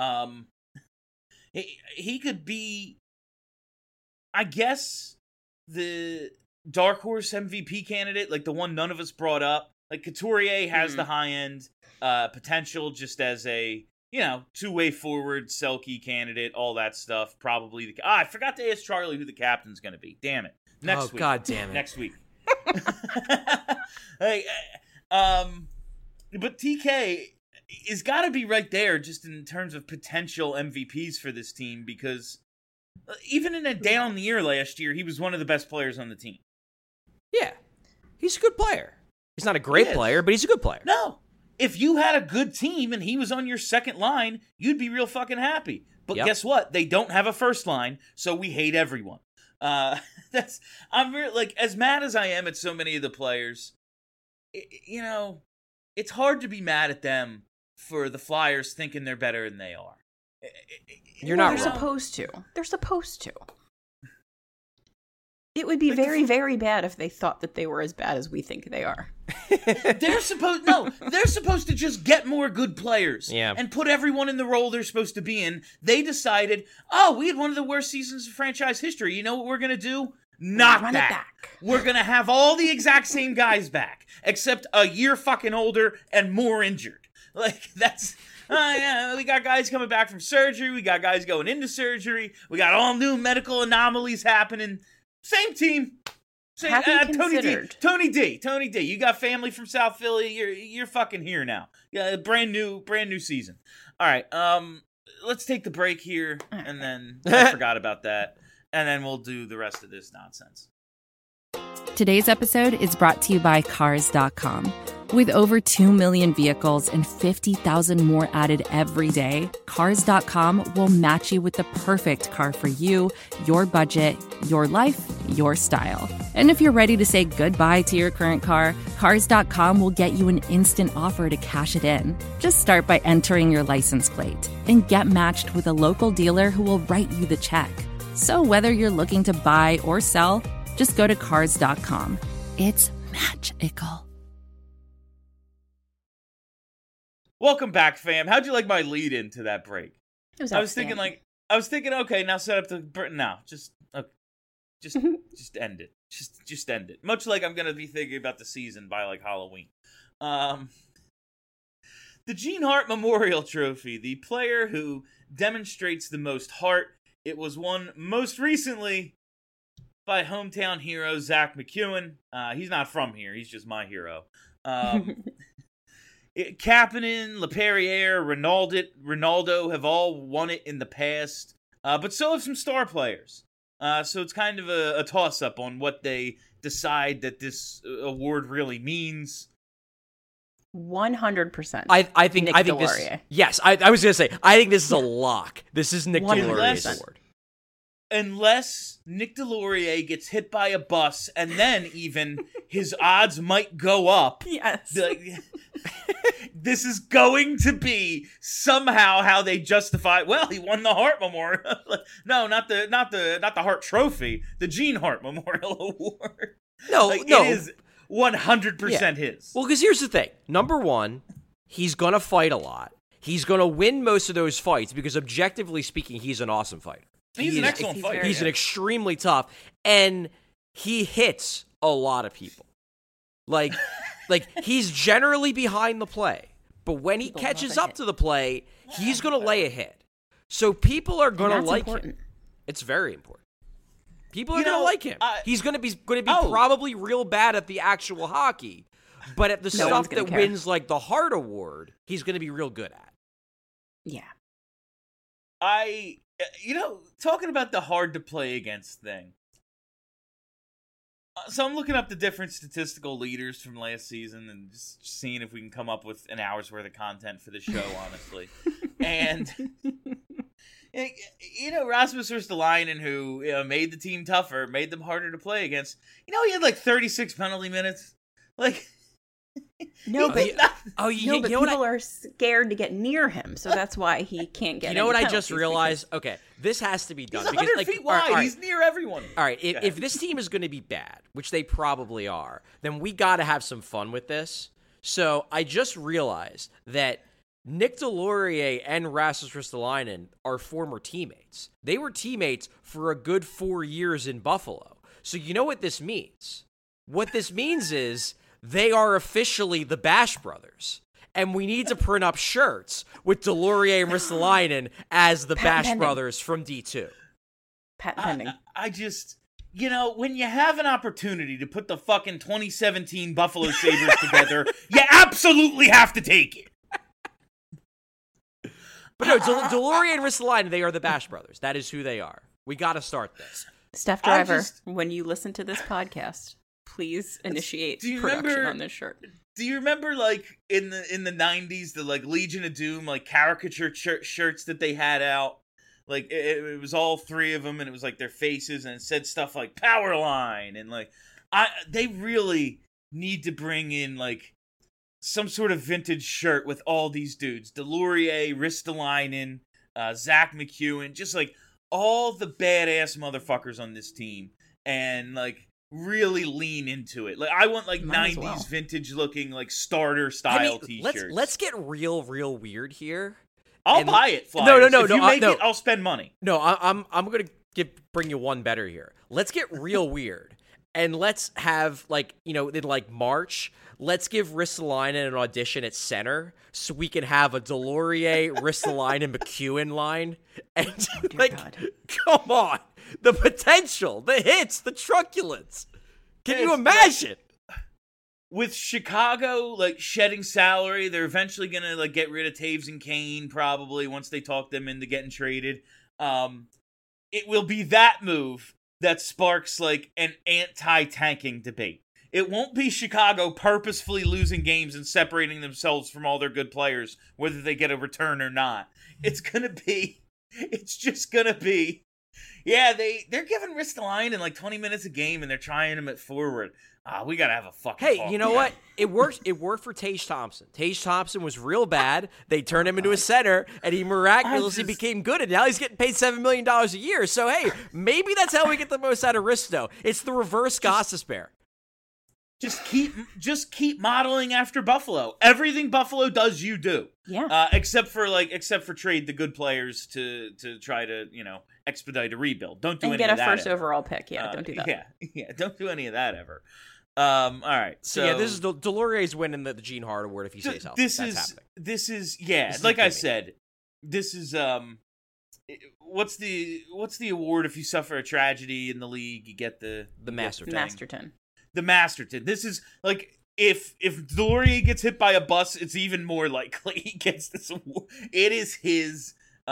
He could be, I guess, the dark horse MVP candidate, like the one none of us brought up. Like, Couturier has the high-end potential just as a, two-way forward, Selke candidate, all that stuff. Probably I forgot to ask Charlie who the captain's going to be. Damn it. Next week. God damn it. Next week. But TK is got to be right there just in terms of potential MVPs for this team because even in a down year last year, he was one of the best players on the team. Yeah. He's a good player. He's not a great player, but he's a good player. No. if you had a good team and he was on your second line, you'd be real fucking happy. But guess what? They don't have a first line, so we hate everyone. I'm really, like, as mad as I am at so many of the players, you know, it's hard to be mad at them for the Flyers thinking they're better than they are. You're not They're wrong. supposed to. They're supposed to. It would be very, very bad if they thought that they were as bad as we think they are. They're supposed to just get more good players and put everyone in the role they're supposed to be in. They decided, we had one of the worst seasons of franchise history. You know what we're going to do? Not Run that. it back. We're going to have all the exact same guys back, except a year fucking older and more injured. Like, that's... we got guys coming back from surgery. We got guys going into surgery. We got all new medical anomalies happening. Same team. Same, Have you Tony D. You got family from South Philly. You're fucking here now. Yeah, brand new season. All right. Let's take the break here, and then I forgot about that, and then we'll do the rest of this nonsense. Today's episode is brought to you by Cars.com. With over 2 million vehicles and 50,000 more added every day, Cars.com will match you with the perfect car for you, your budget, your life, your style. And if you're ready to say goodbye to your current car, Cars.com will get you an instant offer to cash it in. Just start by entering your license plate and get matched with a local dealer who will write you the check. So whether you're looking to buy or sell, just go to Cars.com. It's magical. Welcome back, fam. How'd you like my lead into that break? It was I was thinking, okay, now set up the now. Just end it. Just end it. Much like I'm gonna be thinking about the season by like Halloween. The Gene Hart Memorial Trophy, the player who demonstrates the most heart. It was won most recently by hometown hero Zach McEwen. He's not from here. He's just my hero. Kapanen, LaPerriere, Ronaldo have all won it in the past, but so have some star players. So it's kind of a toss-up on what they decide that this award really means. 100%. I think this. Delorier. Yes, I was gonna say. I think this is a lock. This is Nick Delorier's award. Unless Nick Delorier gets hit by a bus, and then even his odds might go up. Yes. This is going to be somehow how they justify. Well, he won the Hart Memorial. No, not the Hart Trophy. The Gene Hart Memorial Award. No. It is 100% his. Well, because here's the thing. Number one, he's gonna fight a lot. He's gonna win most of those fights because, objectively speaking, he's an awesome fighter. He's an excellent fighter. He's an extremely tough, and he hits a lot of people. Like he's generally behind the play, but when he catches up to the play, he's going to lay a hit. So people are going to like him. It's very important. People are going to like him. He's going to be probably real bad at the actual hockey, but at the stuff that wins like the Hart Award, he's going to be real good at. Yeah. Talking about the hard to play against thing. So I'm looking up the different statistical leaders from last season and just seeing if we can come up with an hour's worth of content for the show, honestly. And, Rasmus Ristolainen, who made the team tougher, made them harder to play against. He had like 36 penalty minutes. Like... No, but people are scared to get near him, so that's why he can't get. You know what I just realized? Okay, this has to be done. He's 100 feet wide. Right. He's near everyone. All right, if this team is going to be bad, which they probably are, then we got to have some fun with this. So I just realized that Nick Delorier and Rasmus Ristolainen are former teammates. They were teammates for a good 4 years in Buffalo. So you know what this means? What this means is they are officially the Bash Brothers. And we need to print up shirts with Delorier and Ristolainen as the Bash Brothers from D2. Pat pending. I just, when you have an opportunity to put the fucking 2017 Buffalo Sabres together, you absolutely have to take it. But no, Delorier and Ristolainen, they are the Bash Brothers. That is who they are. We got to start this. Steph Driver, when you listen to this podcast, please initiate production on this shirt. Do you remember, like, in the 90s, the, like, Legion of Doom, like, caricature shirts that they had out? Like, it was all three of them, and it was, like, their faces, and it said stuff like Powerline, and, like, they really need to bring in, like, some sort of vintage shirt with all these dudes. Delorier, Ristolainen, Zach McEwen, just, like, all the badass motherfuckers on this team, and, like, really lean into it. Like, I want, like, Might as 90s well. vintage looking, like, starter style t-shirts. Let's get real weird here. I'll and- buy it, Flyers. No, If you make it, I'll spend money. No, I'm gonna bring you one better here. Let's get real weird, and let's have, like, you know, in like March, let's give Ristolainen an audition at center so we can have a Delorier, Ristolainen, McEwen line, and like, God. come on, the potential, the hits, the truculence. Can you It's imagine? With Chicago, like, shedding salary, they're eventually gonna, like, get rid of Taves and Kane, probably, once they talk them into getting traded. It will be that move that sparks, like, an anti-tanking debate. It won't be Chicago purposefully losing games and separating themselves from all their good players, whether they get a return or not. It's just gonna be, yeah, they're giving Ristolainen like 20 minutes a game, and they're trying him at forward. We gotta have a fucking Hey, talk. you know what? It worked. It worked for Tage Thompson. Tage Thompson was real bad. They turned him into a center, and he miraculously became good. And now he's getting paid $7 million a year. So hey, maybe that's how we get the most out of Risto. It's the reverse Gostisbehere. Just keep modeling after Buffalo. Everything Buffalo does, you do. Yeah. Except for trade the good players to try to, you know, expedite a rebuild. Don't do And any get of a that. first ever. overall pick. Yeah, don't do that. Yeah, don't do any of that ever. All right. So yeah, this is Delorier's winning the Gene Hart Award if he stays healthy. This That's is happening. this is This is like I Jimmy. said, this is what's the award if you suffer a tragedy in the league, you get the Masterton. Masterton. The Masterton. This is like if Delorier gets hit by a bus, it's even more likely he gets this award. It is his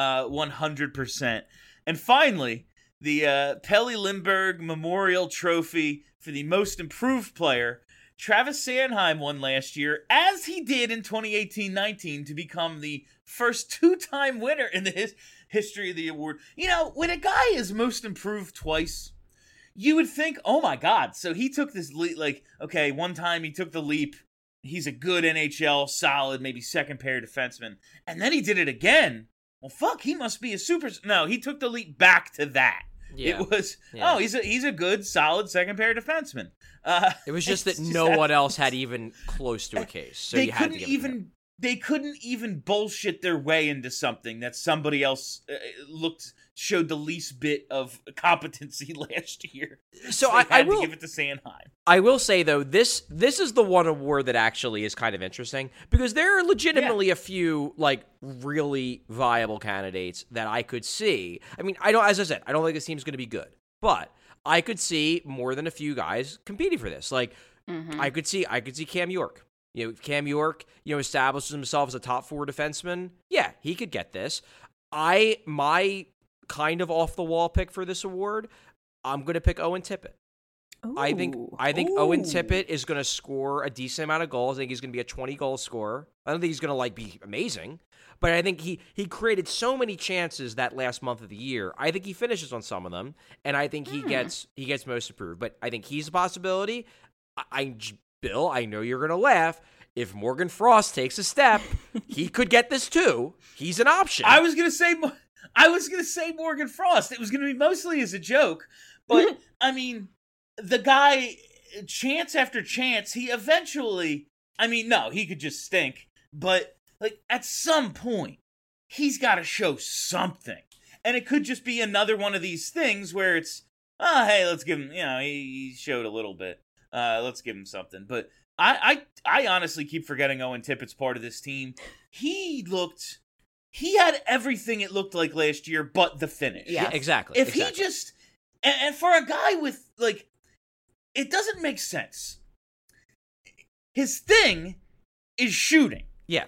100%. And finally, the Pelle Lindbergh Memorial Trophy for the most improved player. Travis Sanheim won last year, as he did in 2018-19, to become the first two-time winner in the history of the award. You know, when a guy is most improved twice, you would think, oh my God, so he took this leap, like, okay, one time he took the leap, he's a good NHL, solid, maybe second pair defenseman, and then he did it again. Well, fuck, he must be a super... No, he took the leap back to that. Yeah. It was, Yeah. oh, he's a good, solid second pair defenseman. It was just that it's just no that- one else had even close to a case, so they you had to couldn't give it to him. they couldn't even bullshit their way into something that somebody else showed the least bit of competency last year. So they I had will to give it to Sanheim. I will say though, this is the one award that actually is kind of interesting because there are legitimately a few like really viable candidates that I could see. I mean, as I said, I don't think this team's going to be good, but I could see more than a few guys competing for this. Like I could see Cam York. You know, if Cam York, establishes himself as a top four defenseman, yeah, he could get this. My kind of off the wall pick for this award, I'm going to pick Owen Tippett. I think Owen Tippett is going to score a decent amount of goals. I think he's going to be a 20-goal scorer. I don't think he's going to be amazing, but I think he created so many chances that last month of the year. I think he finishes on some of them, and I think he gets most improved. But I think he's a possibility. Bill, I know you're going to laugh. If Morgan Frost takes a step, he could get this too. He's an option. I was gonna say Morgan Frost. It was gonna be mostly as a joke, but I mean, the guy, chance after chance, he eventually. I mean, no, he could just stink, but like at some point, he's got to show something, and it could just be another one of these things where it's, hey, let's give him. He showed a little bit. Let's give him something. But I honestly keep forgetting Owen Tippett's part of this team. He had everything it looked like last year, but the finish. Yeah, exactly. If he just, and for a guy with, like, it doesn't make sense. His thing is shooting. Yeah.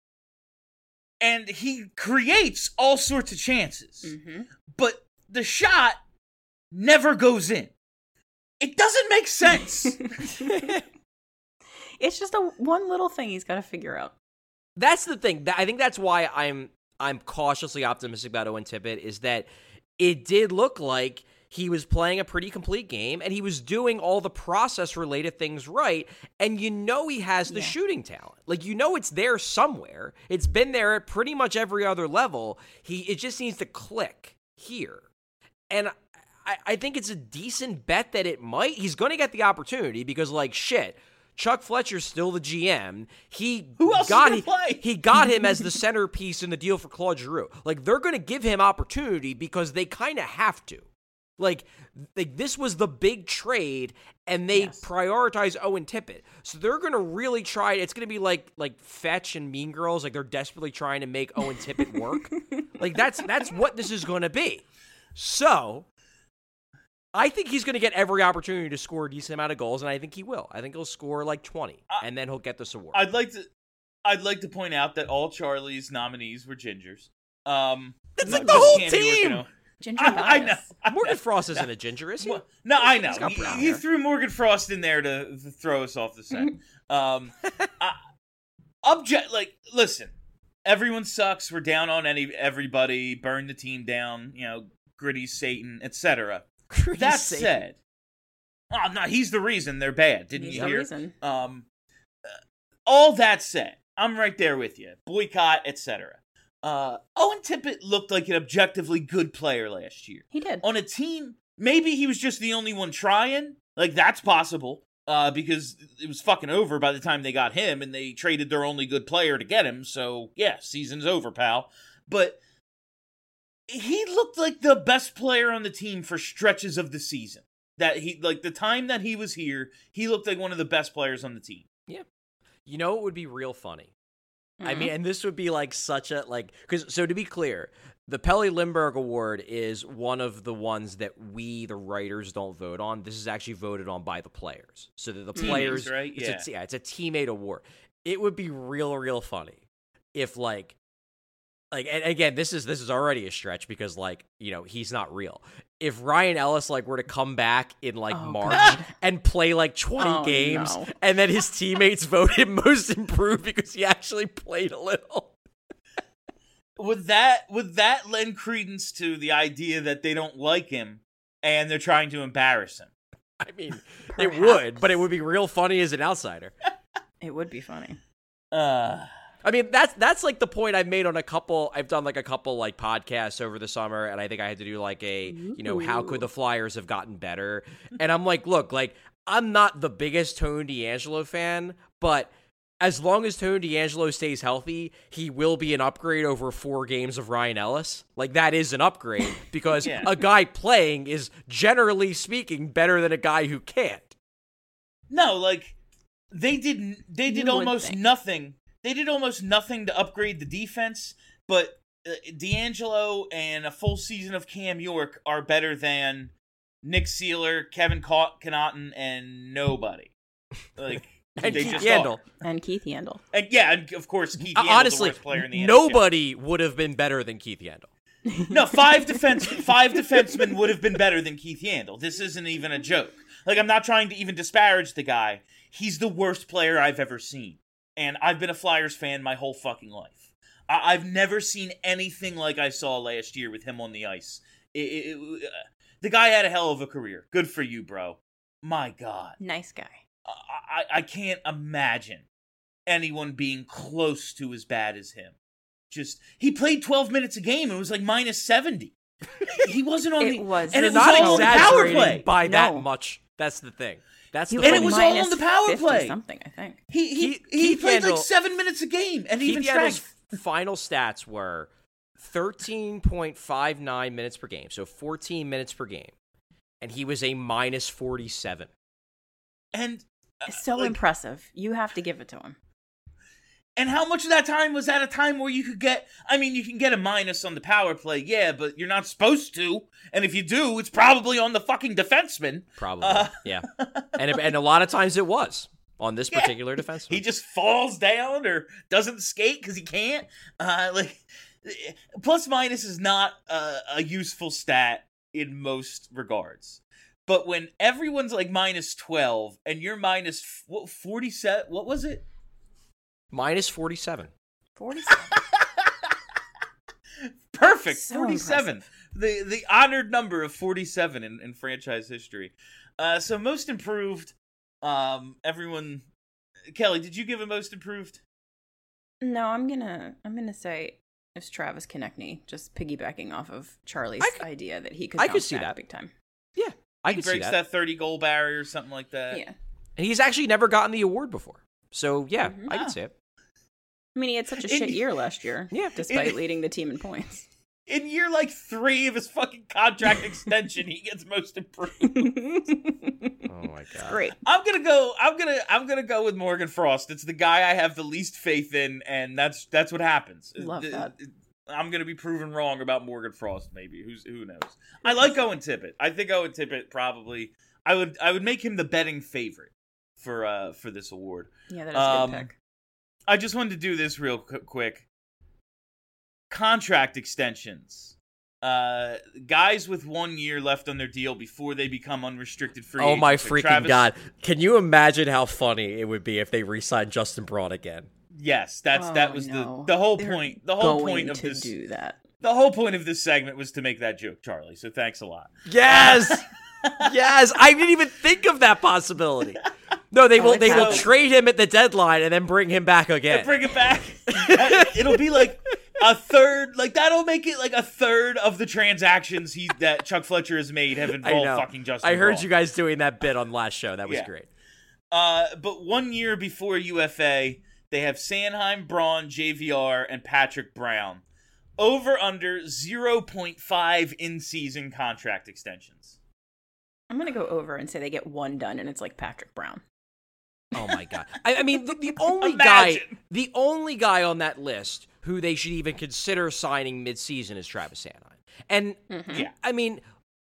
And he creates all sorts of chances. But the shot never goes in. It doesn't make sense. It's just a one little thing he's got to figure out. That's the thing. I think that's why I'm cautiously optimistic about Owen Tippett, is that it did look like he was playing a pretty complete game, and he was doing all the process-related things right, and he has the shooting talent. Like, it's there somewhere. It's been there at pretty much every other level. It just needs to click here. And I think it's a decent bet that it might. He's going to get the opportunity because, shit, Chuck Fletcher's still the GM. Who else is gonna play? He got him as the centerpiece in the deal for Claude Giroux. They're going to give him opportunity because they kind of have to. This was the big trade, and they prioritize Owen Tippett. So they're going to really try. It's going to be like Fetch and Mean Girls. They're desperately trying to make Owen Tippett work. That's what this is going to be. So I think he's going to get every opportunity to score a decent amount of goals, and I think he will. I think he'll score 20, and then he'll get this award. I'd like to point out that all Charlie's nominees were gingers. That's the whole team. Ginger I know. Morgan Frost isn't a ginger, is he? No, I know. He's got brown He hair. threw Morgan Frost in there to throw us off the set. Listen, everyone sucks. We're down on everybody. Burn the team down. Gritty Satan, etc. That said, no, he's the reason they're bad. Didn't He's you the hear? reason. All that said, I'm right there with you. Boycott, etc. Owen Tippett looked like an objectively good player last year. He did. On a team, maybe he was just the only one trying. That's possible. Because it was fucking over by the time they got him, and they traded their only good player to get him. So, yeah, season's over, pal. But he looked like the best player on the team for stretches of the season. The time that he was here, he looked like one of the best players on the team. Yeah. It would be real funny. Mm-hmm. I mean, and this would be such a, so to be clear, the Pelle Lindbergh Award is one of the ones that we, the writers, don't vote on. This is actually voted on by the players. So that the players, right? It's a teammate award. It would be real funny if and again, this is already a stretch because he's not real. If Ryan Ellis were to come back in March God. and play 20 games, no. and then his teammates vote him most improved because he actually played a little. Would that lend credence to the idea that they don't like him and they're trying to embarrass him? I mean, it would, but it would be real funny as an outsider. It would be funny. I mean, that's the point I've made on I've done a couple podcasts over the summer, and I think I had to do how could the Flyers have gotten better? And I'm look, I'm not the biggest Tony DeAngelo fan, but as long as Tony DeAngelo stays healthy, he will be an upgrade over 4 games of Ryan Ellis. That is an upgrade because a guy playing is, generally speaking, better than a guy who can't. No, they did almost nothing. They did almost nothing to upgrade the defense, but DeAngelo and a full season of Cam York are better than Nick Seeler, Kevin Connaughton, and nobody. And they Keith just Yandel. And Keith Yandel. And and of course, Keith Yandel, Honestly, the worst player in the NHL. nobody would have been better than Keith Yandel. No, five defensemen would have been better than Keith Yandel. This isn't even a joke. I'm not trying to even disparage the guy. He's the worst player I've ever seen. And I've been a Flyers fan my whole fucking life. I've never seen anything like I saw last year with him on the ice. The guy had a hell of a career. Good for you, bro. My God. Nice guy. I can't imagine anyone being close to as bad as him. He played 12 minutes a game and it was minus 70. He wasn't on It was. And You're it was not all on the power exaggerating play. by that No. much. That's the thing. That's the He thing. And it was all on the power -50 play. something, I think. He Keith played Yandel- 7 minutes a game and Keith even Yandel's strength. final stats were 13.59 minutes per game, so 14 minutes per game. And he was a minus 47. And So impressive. You have to give it to him. And how much of that time was at a time where you could get, you can get a minus on the power play, yeah, but you're not supposed to. And if you do, it's probably on the fucking defenseman. Probably, yeah. And a lot of times it was on this particular defenseman. He just falls down or doesn't skate because he can't. Plus minus is not a useful stat in most regards. But when everyone's like minus 12 and you're minus 47, what was it? Minus 47. 47. Perfect. So 47. The honored number of 47 in franchise history. So most improved, everyone. Kelly, did you give a most improved? No, I'm gonna say it's Travis Konechny, just piggybacking off of Charlie's idea that he could. I could see that big time. Yeah, I He could see breaks that 30 goal barrier or something like that. Yeah, And he's actually never gotten the award before. So, yeah, I can see it. I mean, he had such a shit year last year. Yeah. Despite leading the team in points. In year like 3 of his fucking contract extension, he gets most improved. Oh my god. Great. I'm gonna go with Morgan Frost. It's the guy I have the least faith in, and that's what happens. Love that. I'm gonna be proven wrong about Morgan Frost. Maybe who knows? I like Owen Tippett. I think Owen Tippett probably. I would make him the betting favorite for this award. Yeah, that is a good pick. I just wanted to do this real quick. Contract extensions. Guys with 1 year left on their deal before they become unrestricted free agents. Oh my like freaking Travis. god. Can you imagine how funny it would be if they re-signed Justin Braun again? Yes, that was no. the whole They're point. The whole going point of to this. do that. The whole point of this segment was to make that joke, Charlie. So thanks a lot. Yes! Yes! I didn't even think of that possibility. No, they will trade him at the deadline and then bring him back again. And bring it back. It'll be like a third, like that'll make it like a third of the transactions that Chuck Fletcher has made have involved fucking Justin I heard Braun. you guys doing that bit on last show. That was great. But 1 year before UFA, they have Sanheim, Braun, JVR, and Patrick Brown. Over under 0.5 in-season contract extensions. I'm going to go over and say they get one done, and it's like Patrick Brown. Oh my god! I mean, the only guy on that list who they should even consider signing mid-season is Travis Sanheim. And Yeah. I mean,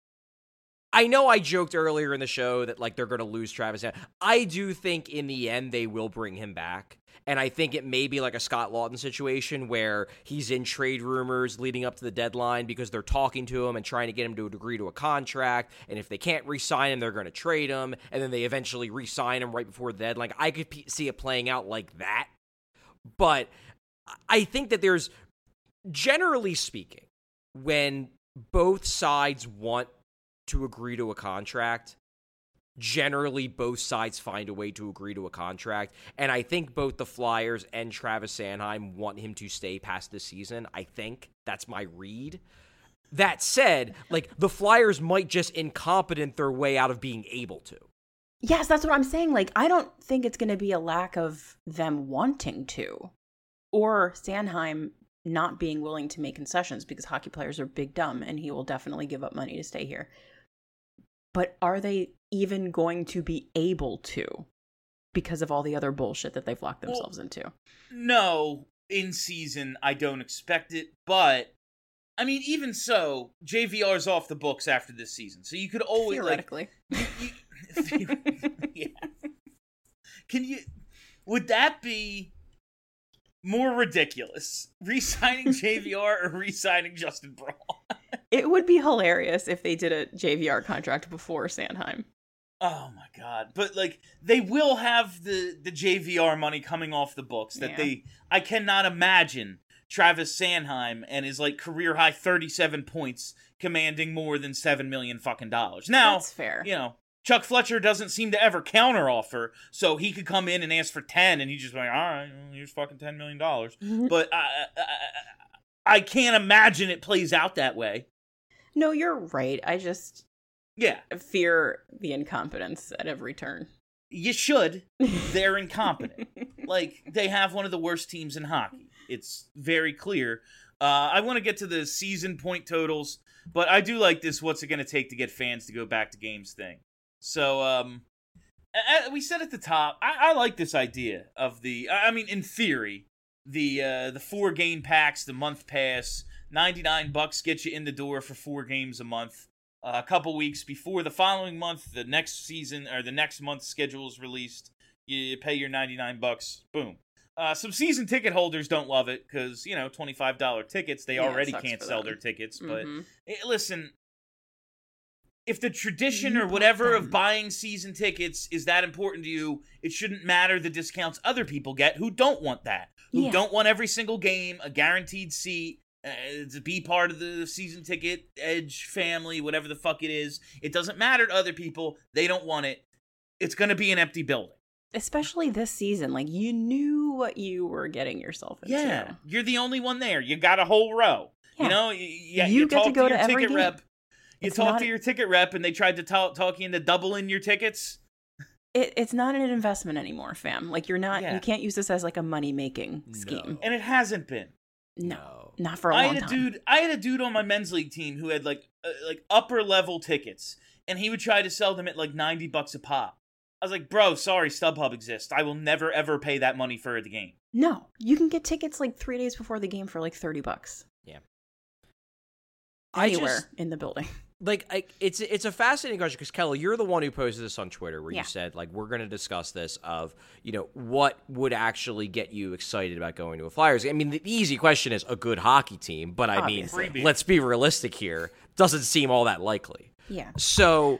I know I joked earlier in the show that like they're going to lose Travis Sanheim. I do think in the end they will bring him back. And I think it may be like a Scott Lawton situation where he's in trade rumors leading up to the deadline because they're talking to him and trying to get him to agree to a contract. And if they can't re-sign him, they're going to trade him. And then they eventually re-sign him right before the deadline. I could see it playing out like that. But I think that there's, generally speaking, when both sides want to agree to a contract, generally both sides find a way to agree to a contract. And I think both the Flyers and Travis Sanheim want him to stay past this season. I think that's my read. That said, like the Flyers might just incompetent their way out of being able to. Yes, that's what I'm saying. Like, I don't think it's going to be a lack of them wanting to or Sanheim not being willing to make concessions because hockey players are big dumb and he will definitely give up money to stay here. But are they even going to be able to because of all the other bullshit that they've locked themselves into? No, in season, I don't expect it. But, I mean, even so, JVR's off the books after this season. So you could always, theoretically. Yeah. Would that be more ridiculous? Re-signing JVR or re-signing Justin Braun? It would be hilarious if they did a JVR contract before Sanheim. Oh my god. But like they will have the JVR money coming off the books that I cannot imagine Travis Sanheim and his like career high 37 points commanding more than $7 million fucking dollars. Now, that's fair. You know, Chuck Fletcher doesn't seem to ever counter offer, so he could come in and ask for 10 and he's just like, all right, well, here's fucking $10 million. But I can't imagine it plays out that way. No, you're right. I just Yeah. fear the incompetence at every turn. You should. They're incompetent. Like, they have one of the worst teams in hockey. It's very clear. I want to get to the season point totals, but I do like this what's it going to take to get fans to go back to games thing. So, we said at the top, I like this idea of in theory, the 4-game packs, the month pass, $99 gets you in the door for 4 games a month. A couple weeks before the following month, the next season or the next month's schedule is released. You pay your $99. Boom. Some season ticket holders don't love it because, $25 tickets. They already can't sell their tickets. But listen, if the tradition You or bought whatever of them. buying season tickets is that important to you, it shouldn't matter the discounts other people get who don't want that, who Yeah. don't want every single game, a guaranteed seat, to be part of the season ticket, Edge family, whatever the fuck it is. It doesn't matter to other people. They don't want it. It's going to be an empty building. Especially this season, like you knew what you were getting yourself into. Yeah, you're the only one there. You got a whole row. Yeah. You know, You get talk to go to your every ticket game. rep. You It's talk not- to your ticket rep, and they tried to talk you into doubling your tickets. It's not an investment anymore, fam. Like you're not. Yeah. You can't use this as like a money making scheme. And it hasn't been. No, not for a I long had a time. dude. I had a dude on my men's league team who had like upper level tickets, and he would try to sell them at like $90 a pop. I was like, bro, sorry, StubHub exists. I will never ever pay that money for the game. No, you can get tickets like 3 days before the game for like $30. Yeah. Anywhere in the building. It's a fascinating question because Kelly, you're the one who posted this on Twitter where Yeah. you said like we're going to discuss this of what would actually get you excited about going to a Flyers game. I mean, the easy question is a good hockey team, but I mean, Obviously. let's be realistic here. Doesn't seem all that likely. Yeah. So,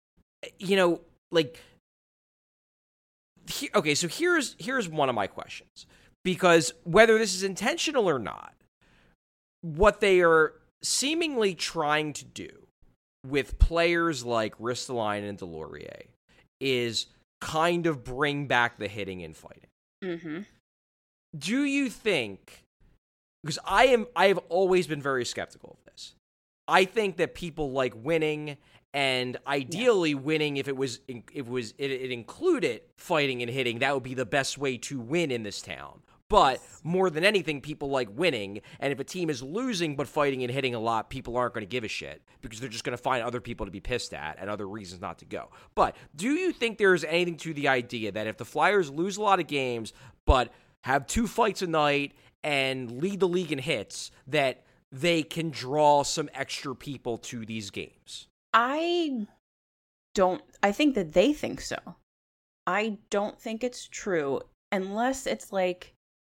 so here's one of my questions because whether this is intentional or not, what they are seemingly trying to do with players like Ristolainen and Delorier is kind of bring back the hitting and fighting. Mm-hmm. Do you think, because I have always been very skeptical of this. I think that people like winning, and ideally winning if it included fighting and hitting, that would be the best way to win in this town. But more than anything, people like winning, and if a team is losing but fighting and hitting a lot, people aren't going to give a shit because they're just going to find other people to be pissed at and other reasons not to go. But do you think there's anything to the idea that if the Flyers lose a lot of games but have 2 fights a night and lead the league in hits, that they can draw some extra people to these games? I think that they think so. I don't think it's true unless it's like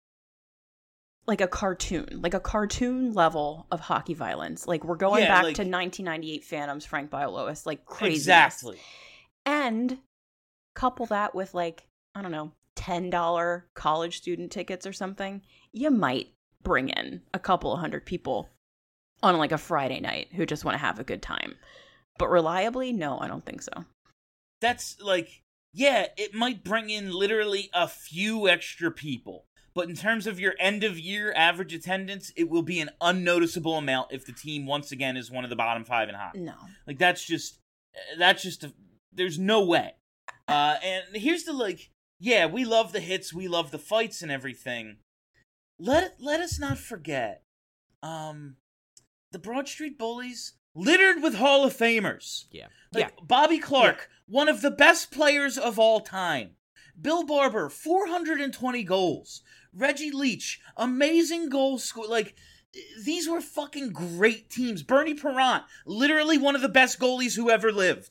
a cartoon level of hockey violence. Like we're going back to 1998 Phantoms, Frank Bialowas, like crazy. Exactly. And couple that with like, I don't know, $10 college student tickets or something, you might bring in a couple of hundred people on like a Friday night who just want to have a good time. But reliably, no, I don't think so. That's like, yeah, it might bring in literally a few extra people. But in terms of your end-of-year average attendance, it will be an unnoticeable amount if the team, once again, is one of the bottom 5 in hockey. No. Like, there's no way. And here's the, yeah, we love the hits, we love the fights and everything. Let us not forget, the Broad Street Bullies, littered with Hall of Famers. Yeah. Bobby Clark, one of the best players of all time. Bill Barber, 420 goals. Reggie Leach, amazing goal score. These were fucking great teams. Bernie Parent, literally one of the best goalies who ever lived.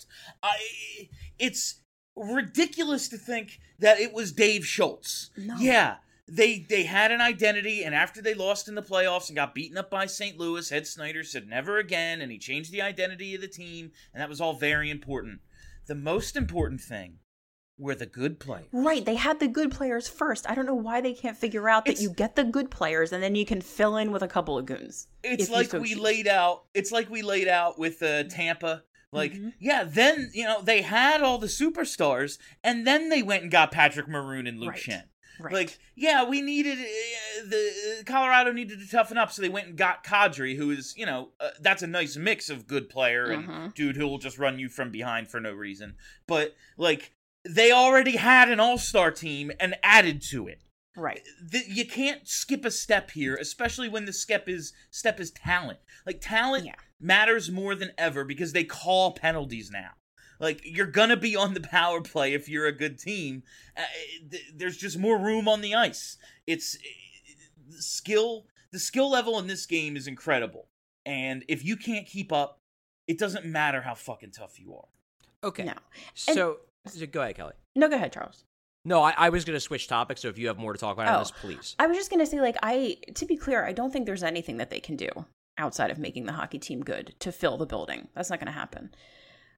It's ridiculous to think that it was Dave Schultz. No. Yeah, they had an identity, and after they lost in the playoffs and got beaten up by St. Louis, Ed Snyder said never again, and he changed the identity of the team, and that was all very important. The most important thing were the good players. Right, they had the good players first. I don't know why they can't figure out that you get the good players and then you can fill in with a couple of goons. It's like we laid out with Tampa. Yeah, then, they had all the superstars, and then they went and got Patrick Maroon and Luke Schenn. Right. We needed, Colorado needed to toughen up, so they went and got Kadri, who is, that's a nice mix of good player and dude who will just run you from behind for no reason. But, they already had an all-star team and added to it. Right. You can't skip a step here, especially when the step is talent. Talent matters more than ever because they call penalties now. You're gonna be on the power play if you're a good team. There's just more room on the ice. It's the skill level in this game is incredible. And if you can't keep up, it doesn't matter how fucking tough you are. Okay. No. So go ahead, Kelly. No, go ahead, Charles. No, I was going to switch topics, so if you have more to talk about on this, please. I was just going to say, to be clear, I don't think there's anything that they can do outside of making the hockey team good to fill the building. That's not going to happen.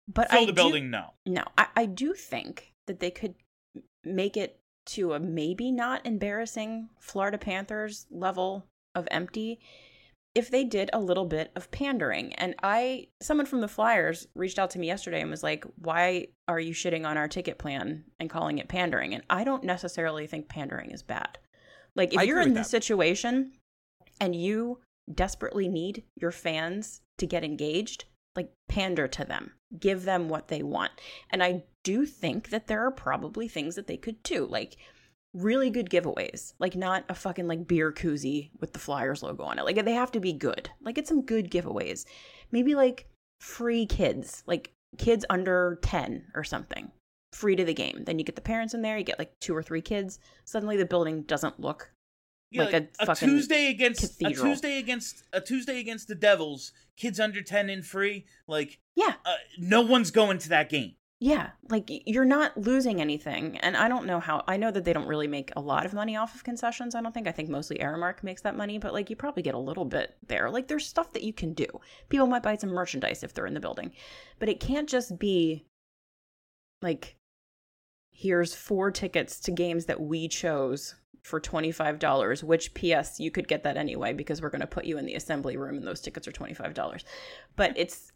But Fill the building, no. No, I do think that they could make it to a maybe not embarrassing Florida Panthers level of empty if they did a little bit of pandering. And someone from the Flyers reached out to me yesterday and was like, why are you shitting on our ticket plan and calling it pandering? And I don't necessarily think pandering is bad. Like, if you're in this situation and you desperately need your fans to get engaged, like, pander to them, give them what they want. And I do think that there are probably things that they could do, like really good giveaways, like not a fucking like beer koozie with the Flyers logo on it. Like, they have to be good. Like, get some good giveaways. Maybe like free kids, like kids under 10 or something, free to the game. Then you get the parents in there, you get like 2 or 3 kids. Suddenly the building doesn't look like a fucking Tuesday against cathedral. a Tuesday against the Devils, kids under 10 in free. Like, Yeah. No one's going to that game. Yeah, like, you're not losing anything. And I don't know how, I know that they don't really make a lot of money off of concessions. I think mostly Aramark makes that money, but like, you probably get a little bit there. Like, there's stuff that you can do. People might buy some merchandise if they're in the building, but it can't just be like, here's 4 tickets to games that we chose for $25, which PS, you could get that anyway, because we're going to put you in the assembly room and those tickets are $25. But it's,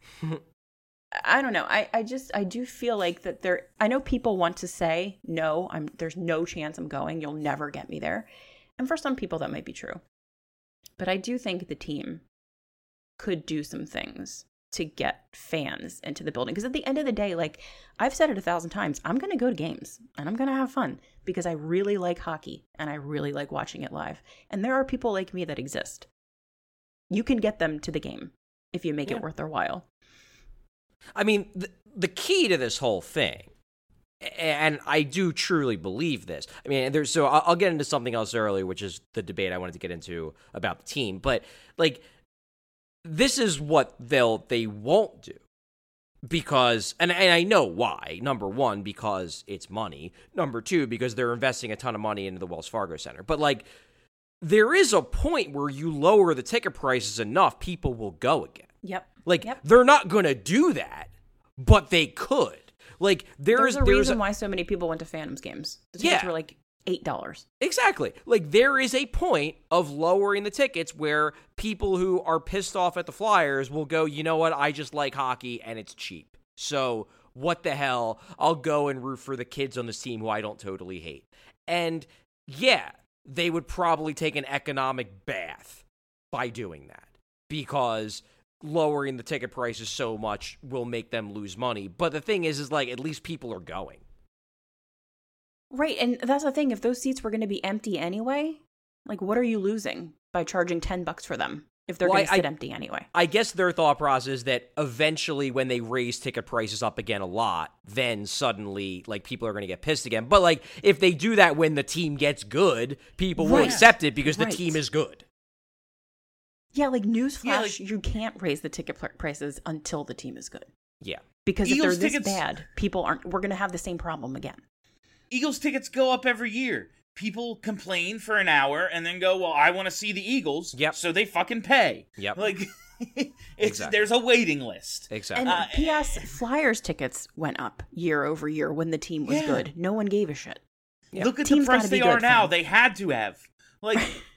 I don't know. I do feel like that I know people want to say, no, there's no chance I'm going. You'll never get me there. And for some people that might be true. But I do think the team could do some things to get fans into the building. Because at the end of the day, like I've said it 1,000 times, I'm going to go to games and I'm going to have fun because I really like hockey and I really like watching it live. And there are people like me that exist. You can get them to the game if you make it worth their while. I mean, the key to this whole thing, and I do truly believe this. I mean, so I'll get into something else earlier, which is the debate I wanted to get into about the team. But like, this is what they won't do because, and I know why. Number one, because it's money. Number two, because they're investing a ton of money into the Wells Fargo Center. But like, there is a point where you lower the ticket prices enough, people will go again. Yep. Like, they're not going to do that, but they could. Like, there's a reason why so many people went to Phantoms games. The tickets were like $8. Exactly. Like, there is a point of lowering the tickets where people who are pissed off at the Flyers will go, you know what, I just like hockey and it's cheap. So, what the hell, I'll go and root for the kids on this team who I don't totally hate. And, yeah, they would probably take an economic bath by doing that because lowering the ticket prices so much will make them lose money. But the thing is like, at least people are going. Right, and that's the thing. If those seats were going to be empty anyway, like, what are you losing by charging $10 for them if they're going to sit empty anyway? I guess their thought process is that eventually when they raise ticket prices up again a lot, then suddenly, like, people are going to get pissed again. But, like, if they do that when the team gets good, people will accept it because the team is good. Yeah, like, newsflash, you can't raise the ticket prices until the team is good. Yeah. Because Eagles if they're this bad, we're going to have the same problem again. Eagles tickets go up every year. People complain for an hour and then go, well, I want to see the Eagles, so they fucking pay. Yep. Like, there's a waiting list. Exactly. And P.S. Flyers tickets went up year over year when the team was good. No one gave a shit. Yeah. Look at the price they are now. They had to have. Like...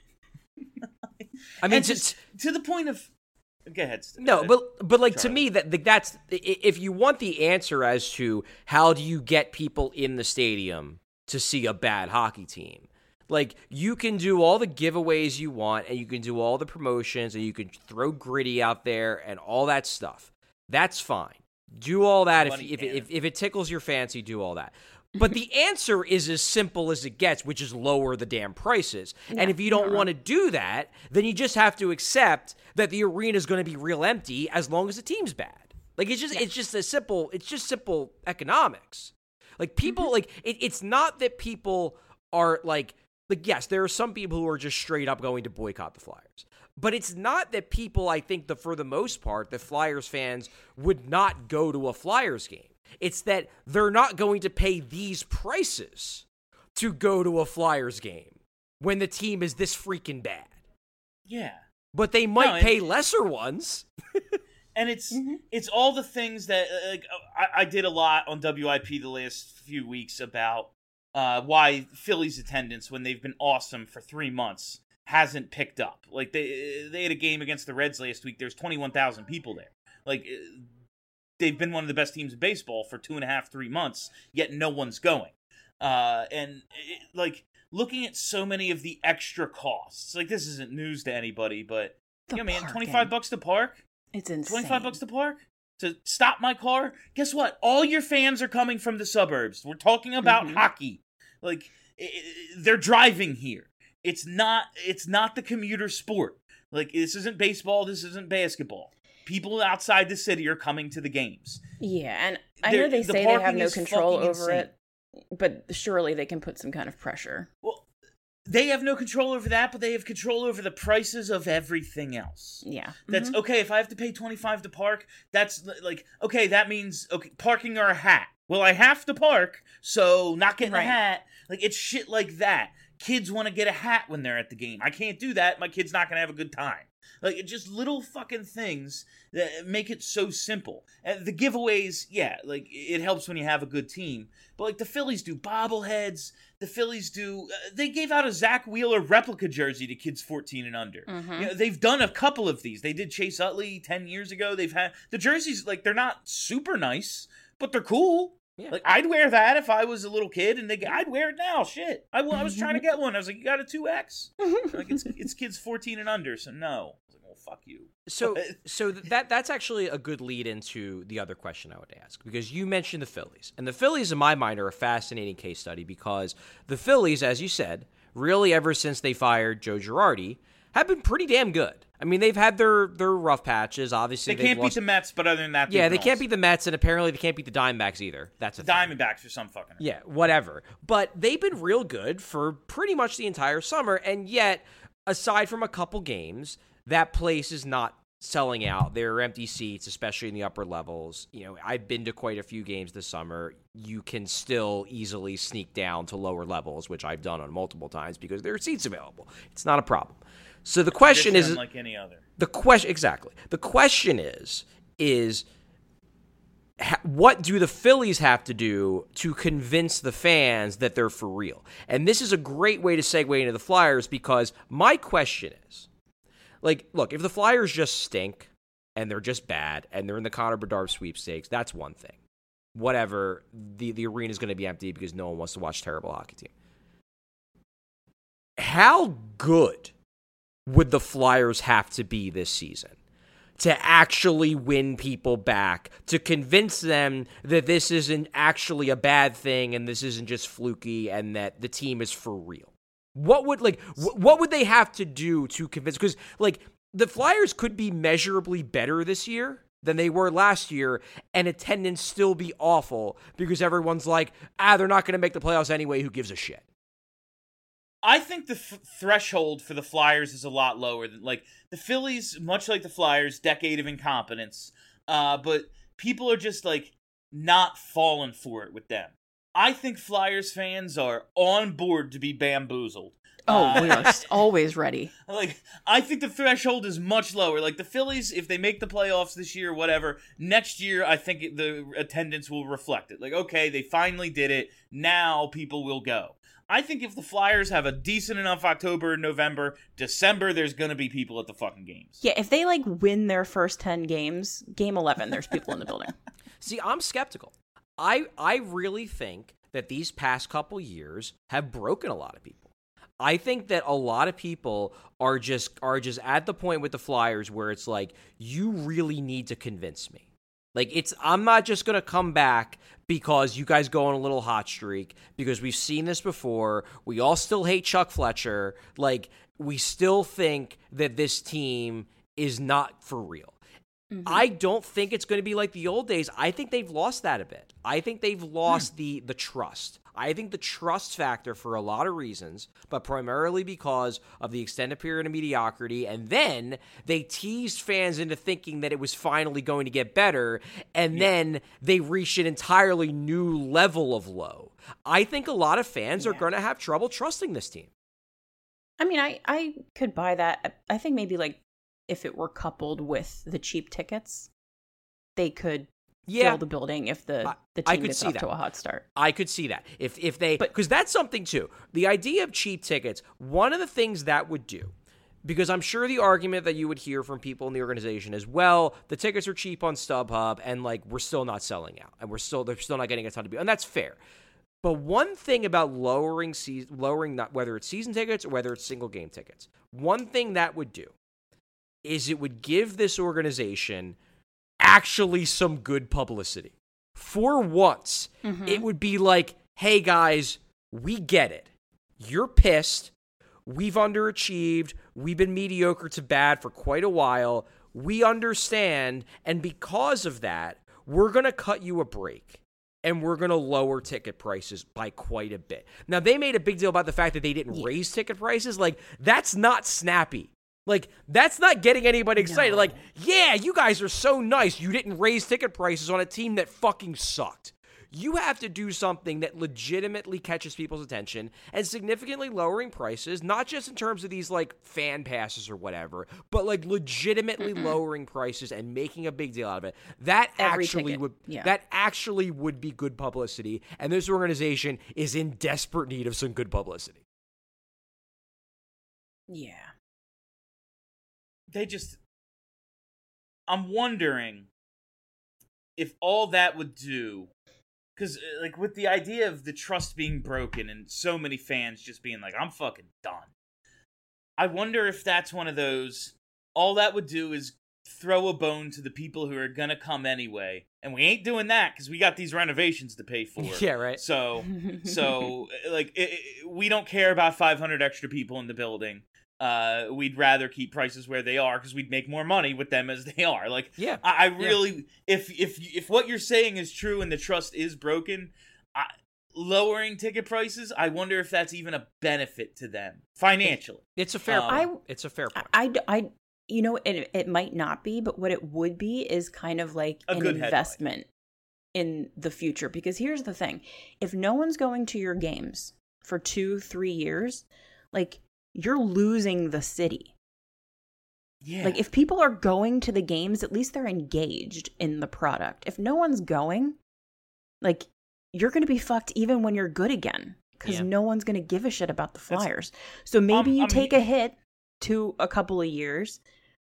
I mean, to the point of, go ahead. No, but like to me that's if you want the answer as to how do you get people in the stadium to see a bad hockey team, like you can do all the giveaways you want and you can do all the promotions and you can throw Gritty out there and all that stuff. That's fine. Do all that if it tickles your fancy. Do all that. But the answer is as simple as it gets, which is lower the damn prices. Yeah, and if you don't want to do that, then you just have to accept that the arena is going to be real empty as long as the team's bad. Like it's just simple economics. Like people it's not that people are like yes, there are some people who are just straight up going to boycott the Flyers. But it's not that people, I think that for the most part, the Flyers fans would not go to a Flyers game. It's that they're not going to pay these prices to go to a Flyers game when the team is this freaking bad. Yeah. But they might pay lesser ones. And it's all the things that I did a lot on WIP the last few weeks about why Phillies attendance, when they've been awesome for 3 months, hasn't picked up. Like they had a game against the Reds last week. There's 21,000 people there. Like they've been one of the best teams in baseball for 2.5, 3 months, yet no one's going. Like looking at so many of the extra costs. Like this isn't news to anybody, but The man, parking. $25 to park. It's insane. $25 to park? To stop my car? Guess what? All your fans are coming from the suburbs. We're talking about hockey. Like, they're driving here. It's not the commuter sport. Like, this isn't baseball. This isn't basketball. People outside the city are coming to the games. Yeah, and I know they the say they have parking no is control fucking over insane. it, but surely they can put some kind of pressure. Well, they have no control over that, but they have control over the prices of everything else. Yeah. That's okay. If I have to pay $25 to park, that's like, okay, that means, okay, parking or a hat. Well, I have to park, so not getting a hat. Like, it's shit like that. Kids want to get a hat when they're at the game. I can't do that. My kid's not going to have a good time. Like, it's just little fucking things that make it so simple. And the giveaways, yeah, like, it helps when you have a good team. But, like, the Phillies do bobbleheads. The Phillies do... they gave out a Zach Wheeler replica jersey to kids 14 and under. You know, they've done a couple of these. They did Chase Utley 10 years ago. They've had... the jerseys, like, they're not super nice, but they're cool. Yeah. Like, I'd wear that if I was a little kid, and I'd wear it now. Shit. I was trying to get one. I was like, you got a 2X? Like, it's kids 14 and under, so no. I was like, well, fuck you. So that's actually a good lead into the other question I would ask, because you mentioned the Phillies. And the Phillies, in my mind, are a fascinating case study because the Phillies, as you said, really ever since they fired Joe Girardi, have been pretty damn good. I mean, they've had their rough patches. Obviously, they can't beat the Mets, but other than that, yeah, they can't beat the Mets, and apparently they can't beat the Diamondbacks either. That's a thing. Diamondbacks or some fucking. Yeah, whatever. But they've been real good for pretty much the entire summer, and yet, aside from a couple games, that place is not selling out. There are empty seats, especially in the upper levels. You know, I've been to quite a few games this summer. You can still easily sneak down to lower levels, which I've done on multiple times because there are seats available. It's not a problem. So the question is, like any other. The question exactly. The question is what do the Phillies have to do to convince the fans that they're for real? And this is a great way to segue into the Flyers, because my question is, like, look, if the Flyers just stink and they're just bad and they're in the Connor Bedard sweepstakes, that's one thing. Whatever, the arena is going to be empty because no one wants to watch a terrible hockey team. How good would the Flyers have to be this season to actually win people back, to convince them that this isn't actually a bad thing and this isn't just fluky and that the team is for real? What would they have to do to convince? Because, like, the Flyers could be measurably better this year than they were last year, and attendance still be awful because everyone's like, they're not going to make the playoffs anyway, who gives a shit? I think the threshold for the Flyers is a lot lower than, like, the Phillies, much like the Flyers, decade of incompetence, but people are just, like, not falling for it with them. I think Flyers fans are on board to be bamboozled. Oh, we are always ready. Like, I think the threshold is much lower. Like, the Phillies, if they make the playoffs this year, whatever, next year, I think the attendance will reflect it. Like, okay, they finally did it. Now people will go. I think if the Flyers have a decent enough October and November, December, there's going to be people at the fucking games. Yeah, if they, like, win their first 10 games, game 11, there's people in the building. See, I'm skeptical. I really think that these past couple years have broken a lot of people. I think that a lot of people are just at the point with the Flyers where it's like, you really need to convince me. Like, I'm not just going to come back because you guys go on a little hot streak, because we've seen this before. We all still hate Chuck Fletcher. Like, we still think that this team is not for real. Mm-hmm. I don't think it's going to be like the old days. I think they've lost that a bit. I think they've lost the trust. I think the trust factor, for a lot of reasons, but primarily because of the extended period of mediocrity, and then they teased fans into thinking that it was finally going to get better, and then they reached an entirely new level of low. I think a lot of fans are going to have trouble trusting this team. I mean, I could buy that. I think maybe, like, if it were coupled with the cheap tickets, they could Yeah. fill the building if the I team could gets see off that. to a hot start. I could see that. If they, because that's something too. The idea of cheap tickets, one of the things that would do, because I'm sure the argument that you would hear from people in the organization is, well, the tickets are cheap on StubHub and like we're still not selling out and they're still not getting a ton of people. And that's fair. But one thing about lowering not whether it's season tickets or whether it's single game tickets, one thing that would do is it would give this organization actually some good publicity. For once, it would be like, hey guys, we get it. You're pissed. We've underachieved. We've been mediocre to bad for quite a while. We understand. And because of that, we're going to cut you a break. And we're going to lower ticket prices by quite a bit. Now, they made a big deal about the fact that they didn't raise ticket prices. Like, that's not snappy. Like, that's not getting anybody excited. No. Like, yeah, you guys are so nice. You didn't raise ticket prices on a team that fucking sucked. You have to do something that legitimately catches people's attention and significantly lowering prices, not just in terms of these, like, fan passes or whatever, but, like, legitimately lowering prices and making a big deal out of it. That actually would be good publicity, and this organization is in desperate need of some good publicity. Yeah. I'm wondering if all that would do, because like with the idea of the trust being broken and so many fans just being like, I'm fucking done. I wonder if that's one of those, all that would do is throw a bone to the people who are going to come anyway. And we ain't doing that because we got these renovations to pay for. Yeah, right. So like, we don't care about 500 extra people in the building. We'd rather keep prices where they are because we'd make more money with them as they are. Like, yeah, I really, if what you're saying is true and the trust is broken, lowering ticket prices, I wonder if that's even a benefit to them financially. It's a fair point. It's a fair point. You know, it might not be, but what it would be is kind of like an investment in the future. Because here's the thing. If no one's going to your games for 2-3 years, like, you're losing the city. Yeah. Like, if people are going to the games, at least they're engaged in the product. If no one's going, like, you're going to be fucked even when you're good again. Because no one's going to give a shit about the Flyers. So maybe you take a hit to a couple of years,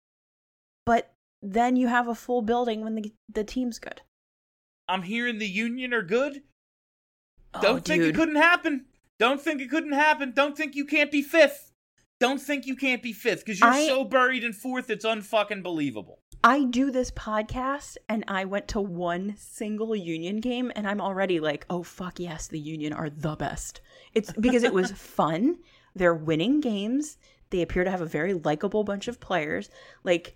but then you have a full building when the team's good. I'm hearing the Union are good. Oh, Don't think it couldn't happen. Don't think it couldn't happen. Don't think you can't be fifth. Don't think you can't be fifth because you're so buried in fourth, it's unfucking believable. I do this podcast and I went to one single Union game and I'm already like, oh, fuck yes, the Union are the best. It's because it was fun. They're winning games. They appear to have a very likable bunch of players. Like,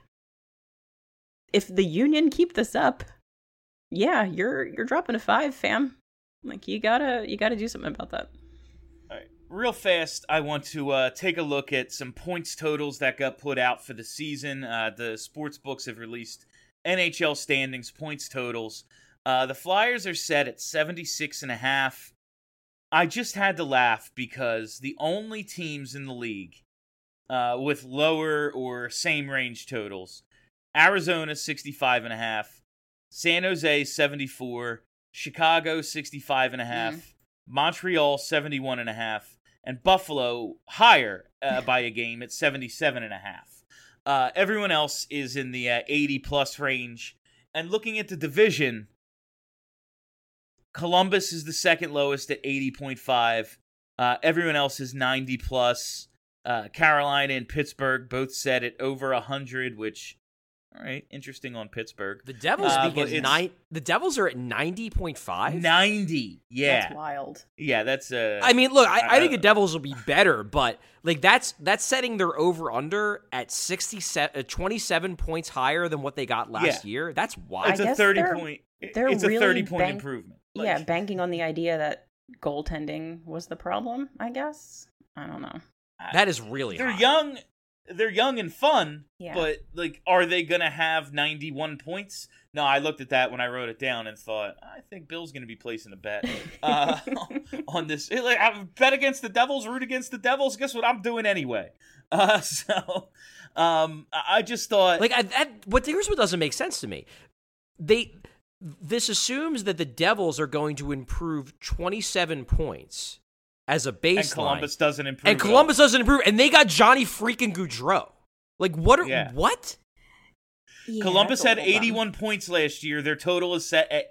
if the Union keep this up, yeah, you're dropping a 5, fam. Like, you gotta do something about that. All right. Real fast, I want to take a look at some points totals that got put out for the season. The sports books have released NHL standings points totals. The Flyers are set at 76.5. I just had to laugh because the only teams in the league with lower or same range totals, Arizona 65.5, San Jose 74, Chicago 65.5, Montreal 71.5, and Buffalo higher by a game at 77.5. Everyone else is in the 80-plus range. And looking at the division, Columbus is the second lowest at 80.5. Everyone else is 90-plus. Carolina and Pittsburgh both set at over 100, which... All right, interesting on Pittsburgh. The Devils the Devils are at 90.5? 90, yeah. That's wild. Yeah, that's... I mean, look, I think the Devils will be better, but like that's setting their over-under at 27 points higher than what they got last year. That's wild. It's a 30-point improvement. Yeah, banking on the idea that goaltending was the problem, I guess. I don't know. That is really high. They're young and fun, yeah. But, like, are they going to have 91 points? No, I looked at that when I wrote it down and thought, I think Bill's going to be placing a bet on this. Like, I bet against the Devils, root against the Devils. Guess what I'm doing anyway? I just thought... Like, here's what doesn't make sense to me. this assumes that the Devils are going to improve 27 points as a baseline. And Columbus doesn't improve. And they got Johnny freaking Gaudreau. Like, what? What? Yeah, Columbus that's a had little dumb. 81 points last year. Their total is set at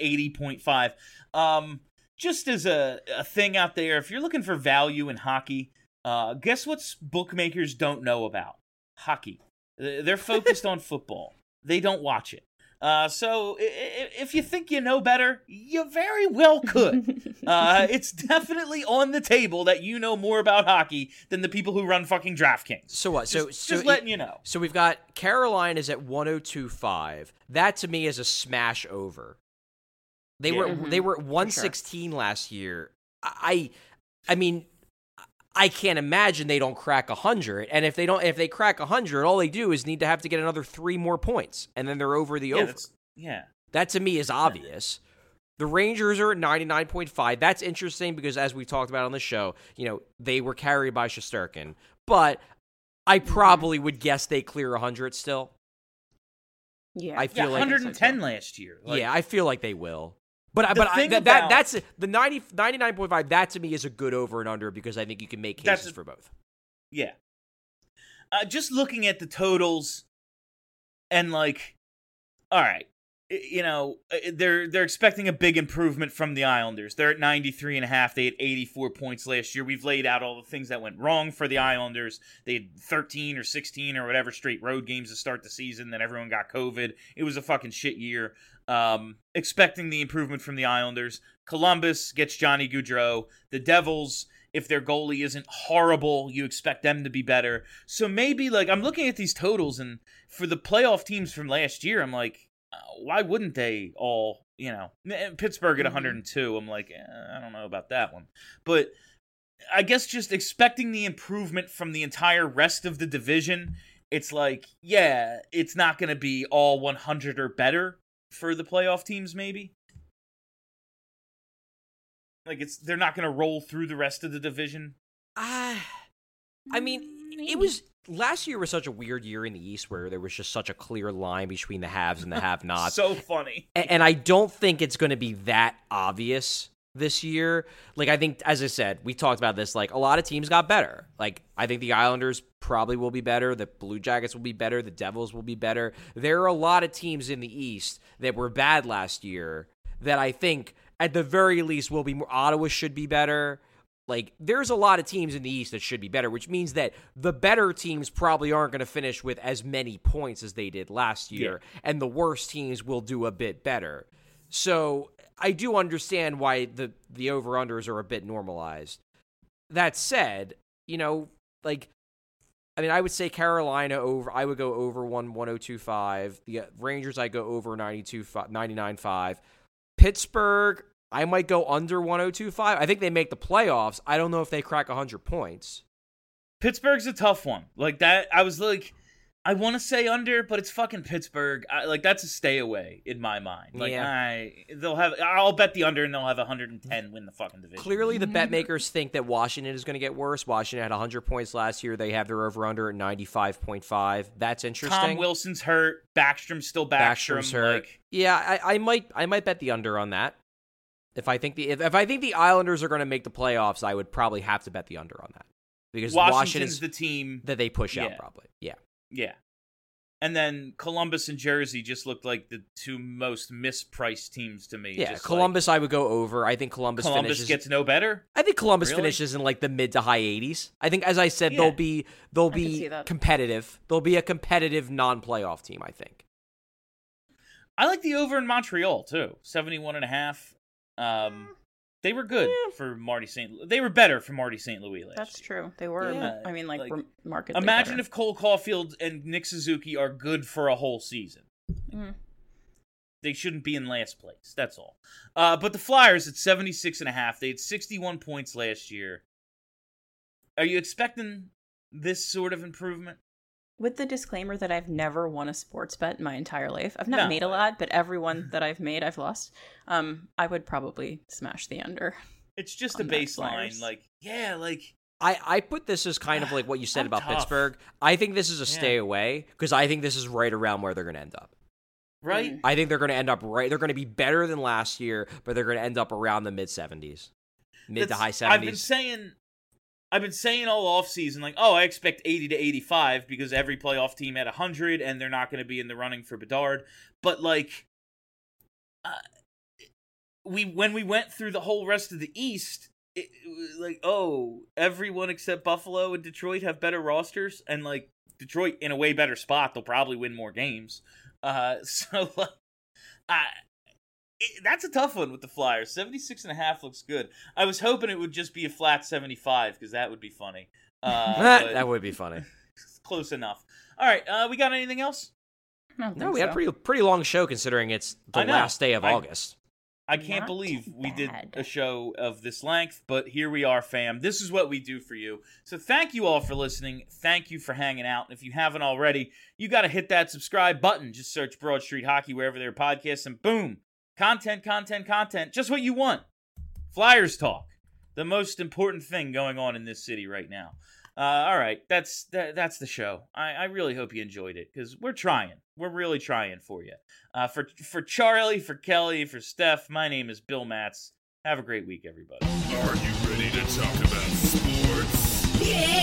80.5. Just as a thing out there, if you're looking for value in hockey, guess what bookmakers don't know about? Hockey. They're focused on football. They don't watch it. So if you think you know better, you very well could. It's definitely on the table that you know more about hockey than the people who run fucking DraftKings. So what? Just letting you know. So we've got Carolina's at 102.5. That to me is a smash over. They were at 116 last year. I mean, I can't imagine they don't crack 100. And if they crack 100, all they do is need to have to get another 3 more points, and then they're over the over. That to me is obvious. The Rangers are at 99.5. That's interesting because, as we talked about on the show, they were carried by Shesterkin. But I probably would guess they clear 100 still. Yeah, I feel like 110 last year. I feel like they will. But that's the 99.5. That to me is a good over and under because I think you can make cases for both. Yeah. Just looking at the totals, and all right, they're expecting a big improvement from the Islanders. They're at 93.5. They had 84 points last year. We've laid out all the things that went wrong for the Islanders. They had 13 or 16 or whatever straight road games to start the season. Then everyone got COVID. It was a fucking shit year. Expecting the improvement from the Islanders. Columbus gets Johnny Gaudreau. The Devils, if their goalie isn't horrible, you expect them to be better. So maybe, I'm looking at these totals, and for the playoff teams from last year, I'm like, why wouldn't they all, Pittsburgh at 102, I'm like, I don't know about that one. But I guess just expecting the improvement from the entire rest of the division, it's like, yeah, it's not going to be all 100 or better for the playoff teams, maybe. They're not going to roll through the rest of the division. I mean, it was last year was such a weird year in the East where there was just such a clear line between the haves and the have-nots. So funny. And I don't think it's going to be that obvious this year. I think, as I said, we talked about this, a lot of teams got better. I think the Islanders probably will be better. The Blue Jackets will be better. The Devils will be better. There are a lot of teams in the East that were bad last year that I think, at the very least, will be more. Ottawa should be better. There's a lot of teams in the East that should be better, which means that the better teams probably aren't going to finish with as many points as they did last year, and the worst teams will do a bit better. So I do understand why the over-unders are a bit normalized. That said, I would say Carolina over. I would go over 102.5. The Rangers, I go over 99.5. Pittsburgh, I might go under 102.5. I think they make the playoffs. I don't know if they crack 100 points. Pittsburgh's a tough one. I was I want to say under, but it's fucking Pittsburgh. That's a stay away in my mind. I'll bet the under, and they'll have 110 win the fucking division. Clearly, the bet makers think that Washington is going to get worse. Washington had 100 points last year. They have their over-under at 95.5. That's interesting. Tom Wilson's hurt. Backstrom's still Backstrom. Backstrom's hurt. Yeah, I might bet the under on that. If I think the Islanders are going to make the playoffs, I would probably have to bet the under on that because Washington's the team that they push out probably. Yeah. Yeah. And then Columbus and Jersey just looked like the two most mispriced teams to me. Yeah, Columbus I would go over. I think Columbus gets no better. I think Columbus finishes in the mid to high 80s. I think, as I said, they'll be competitive. They'll be a competitive non-playoff team, I think. I like the over in Montreal too. 71.5. They were good for Marty St. They were better for Marty St. Louis last year. That's true. They were. Yeah. Markedly imagine better. if Cole Caulfield and Nick Suzuki are good for a whole season. Mm. They shouldn't be in last place. That's all. But the Flyers at 76.5. They had 61 points last year. Are you expecting this sort of improvement? With the disclaimer that I've never won a sports bet in my entire life. I've not made a lot, but every one that I've made, I've lost. I would probably smash the under. It's just a baseline. I put this as kind of like what you said about Pittsburgh. I think this is a stay away because I think this is right around where they're going to end up. right? I think they're going to end up right. They're going to be better than last year, but they're going to end up around the mid-70s. Mid to high 70s. I've been saying all offseason, like, oh, I expect 80 to 85 because every playoff team had 100 and they're not going to be in the running for Bedard. But, like, when we went through the whole rest of the East, it was like, oh, everyone except Buffalo and Detroit have better rosters. And, like, Detroit in a way better spot. They'll probably win more games. So, like, that's a tough one with the Flyers. 76.5 looks good. I was hoping it would just be a flat 75 because that would be funny. That would be funny. Close enough. All right, we got anything else? No, we had a pretty long show considering it's the last day of August. I can't believe we did a show of this length, but here we are, fam. This is what we do for you. So thank you all for listening. Thank you for hanging out. And if you haven't already, you got to hit that subscribe button. Just search Broad Street Hockey wherever there are podcasts, and boom. Content. Just what you want. Flyers talk. The most important thing going on in this city right now. All right, that's the show. I really hope you enjoyed it because we're trying. We're really trying for you. For Charlie, for Kelly, for Steph, my name is Bill Matz. Have a great week, everybody. Are you ready to talk about sports?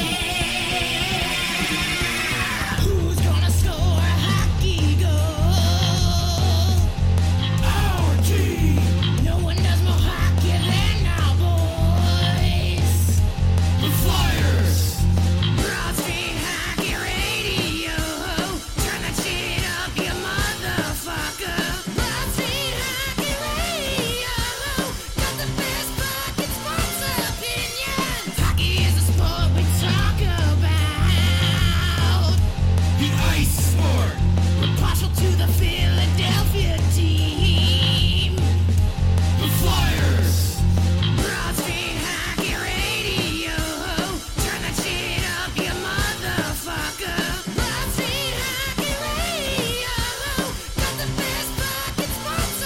Who's gonna score a hockey goal? Our team. No one does more hockey than our boys. The Flyers. Broad Street Hockey Radio. Turn that shit up, you motherfucker. Broad Street Hockey Radio. Got the best fucking sports opinions. Hockey is a sport we talk about. The ice sport. We're partial to the Philadelphia team. The Flyers. Broad Street Hockey Radio. Turn that shit up, you motherfucker. Broad Street Hockey Radio. Got the best fucking sports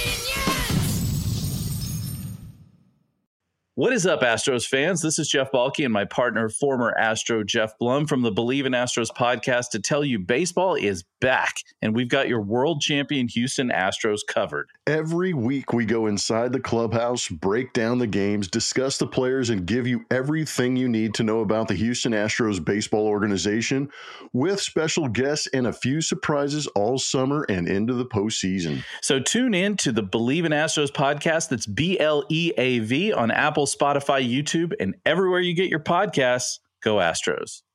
opinions. What is up, Astros fans? This is Jeff Balke and my partner, former Astro Jeff Blum from the Believe in Astros podcast to tell you baseball is back, and we've got your world champion Houston Astros covered. Every week we go inside the clubhouse, break down the games, discuss the players, and give you everything you need to know about the Houston Astros baseball organization with special guests and a few surprises all summer and into the postseason. So tune in to the Believe in Astros podcast. That's BLEAV on Apple, Spotify, YouTube, and everywhere you get your podcasts. Go Astros.